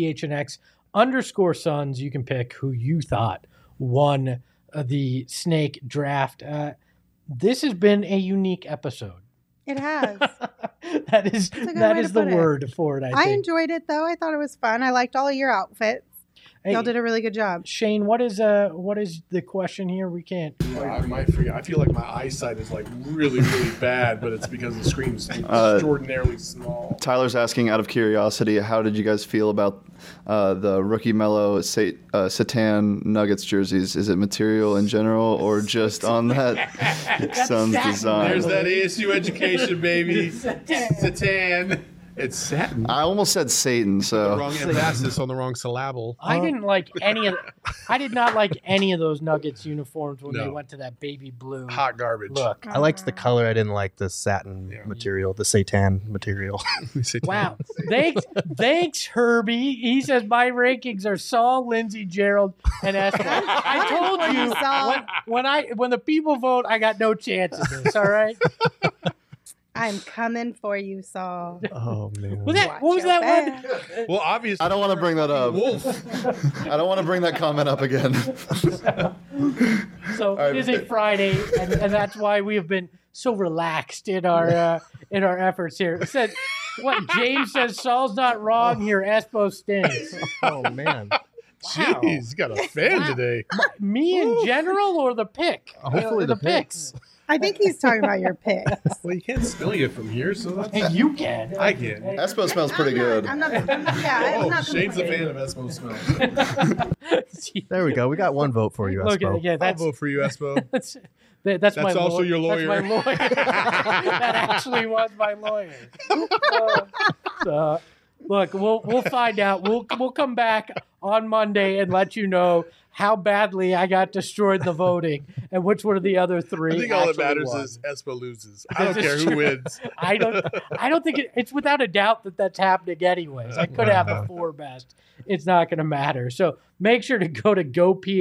@PHNX_Suns. You can pick who you thought won the snake draft. This has been a unique episode. It has. that is the word for it. I think. I enjoyed it though. I thought it was fun. I liked all of your outfits. Hey, Y'all did a really good job. Shane, what is the question here? We can't. I might forget. I feel like my eyesight is like really, really bad, but it's because the screen's extraordinarily small. Tyler's asking, out of curiosity, how did you guys feel about the rookie Mello Satan Nuggets jerseys? Is it material in general or just on that Suns design? There's that ASU education, baby. Satan. It's satin. I almost said Satan, The so wrong emphasis on the wrong syllable. I did not like any of those Nuggets uniforms when they went to that baby blue Hot garbage. look. I liked the color. I didn't like the satin material, the Satan material. Satan. Wow. Thanks, Herbie. He says my rankings are Saul, Lindsay, Gerald, and Esther. I told you Saul. when the people vote, I got no chance of this. All right. I'm coming for you, Saul. Oh man. What was that one? Well, obviously. I don't want to bring that up. Wolf. I don't want to bring that comment up again. So it is a Friday, and that's why we have been so relaxed in our efforts here. It says what James says. Saul's not wrong here. Espo stinks. Oh man. Jeez, you got a fan today. Me in general, or the pick? Hopefully the picks. I think he's talking about your picks. Well, you can't smell you from here, so that's. Hey, you can. I can. Espo smells pretty good. I'm not yeah, Shane's a fan of Espo smells. There we go. We got one vote for you, Look, Espo. yeah, I'll that's vote for you, Espo. that's my also lawyer. your lawyer. That's my lawyer. That actually was my lawyer. So, look, we'll find out. We'll come back on Monday and let you know how badly I got destroyed in the voting and which one of the other three. I think all that actually matters won. is Espo loses. I don't This care is who true. wins. I don't think it's without a doubt that's happening anyways. I could have the four best. It's not going to matter. So make sure to go to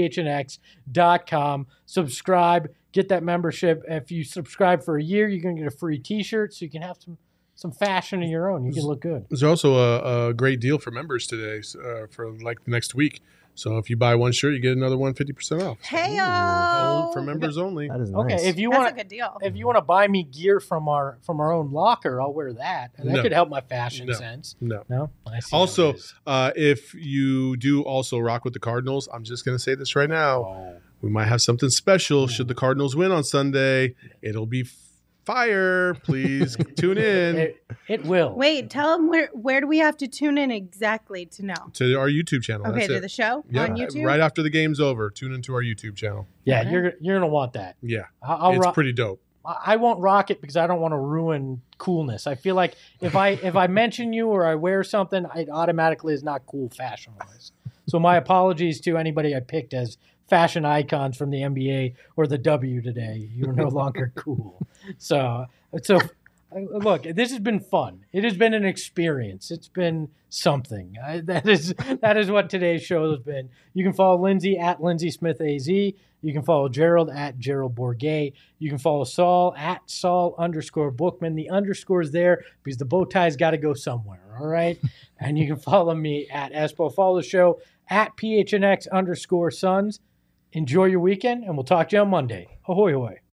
gophnx.com, subscribe, get that membership. If you subscribe for a year, you're going to get a free T-shirt, so you can have some fashion of your own. You can look good. There's also a great deal for members today for like the next week. So if you buy one shirt, you get another one 50% off. Hey-o. For members only. That is Okay, nice. if you That's want a good deal. if you want to buy me gear from our own locker, I'll wear that. And that No. could help my fashion No. sense. No. No? I see how Also, it is. if you do also rock with the Cardinals, I'm just going to say this right now. We might have something special. Should the Cardinals win on Sunday, it'll be fire. Please tune in It will. Wait, tell them where do we have to tune in exactly to know? to our YouTube channel. Okay, That's to it. the show Yeah, on YouTube? right after the game's over, tune into our YouTube channel. Yeah, Okay. you're gonna want that. Yeah, I'll it's rock. pretty dope. I won't rock it because I don't want to ruin coolness. I feel like if I mention you or I wear something, it automatically is not cool fashion wise. So my apologies to anybody I picked as fashion icons from the NBA or the W today. You're no longer cool. So look, this has been fun. It has been an experience. It's been something. That is what today's show has been. You can follow Lindsay at Lindsay Smith AZ. You can follow Gerald at Gerald Bourget. You can follow Saul at Saul_Bookman. The underscore is there because the bow tie's got to go somewhere. All right. And you can follow me at Espo. Follow the show at PHNX_Suns. Enjoy your weekend, and we'll talk to you on Monday. Ahoy, ahoy.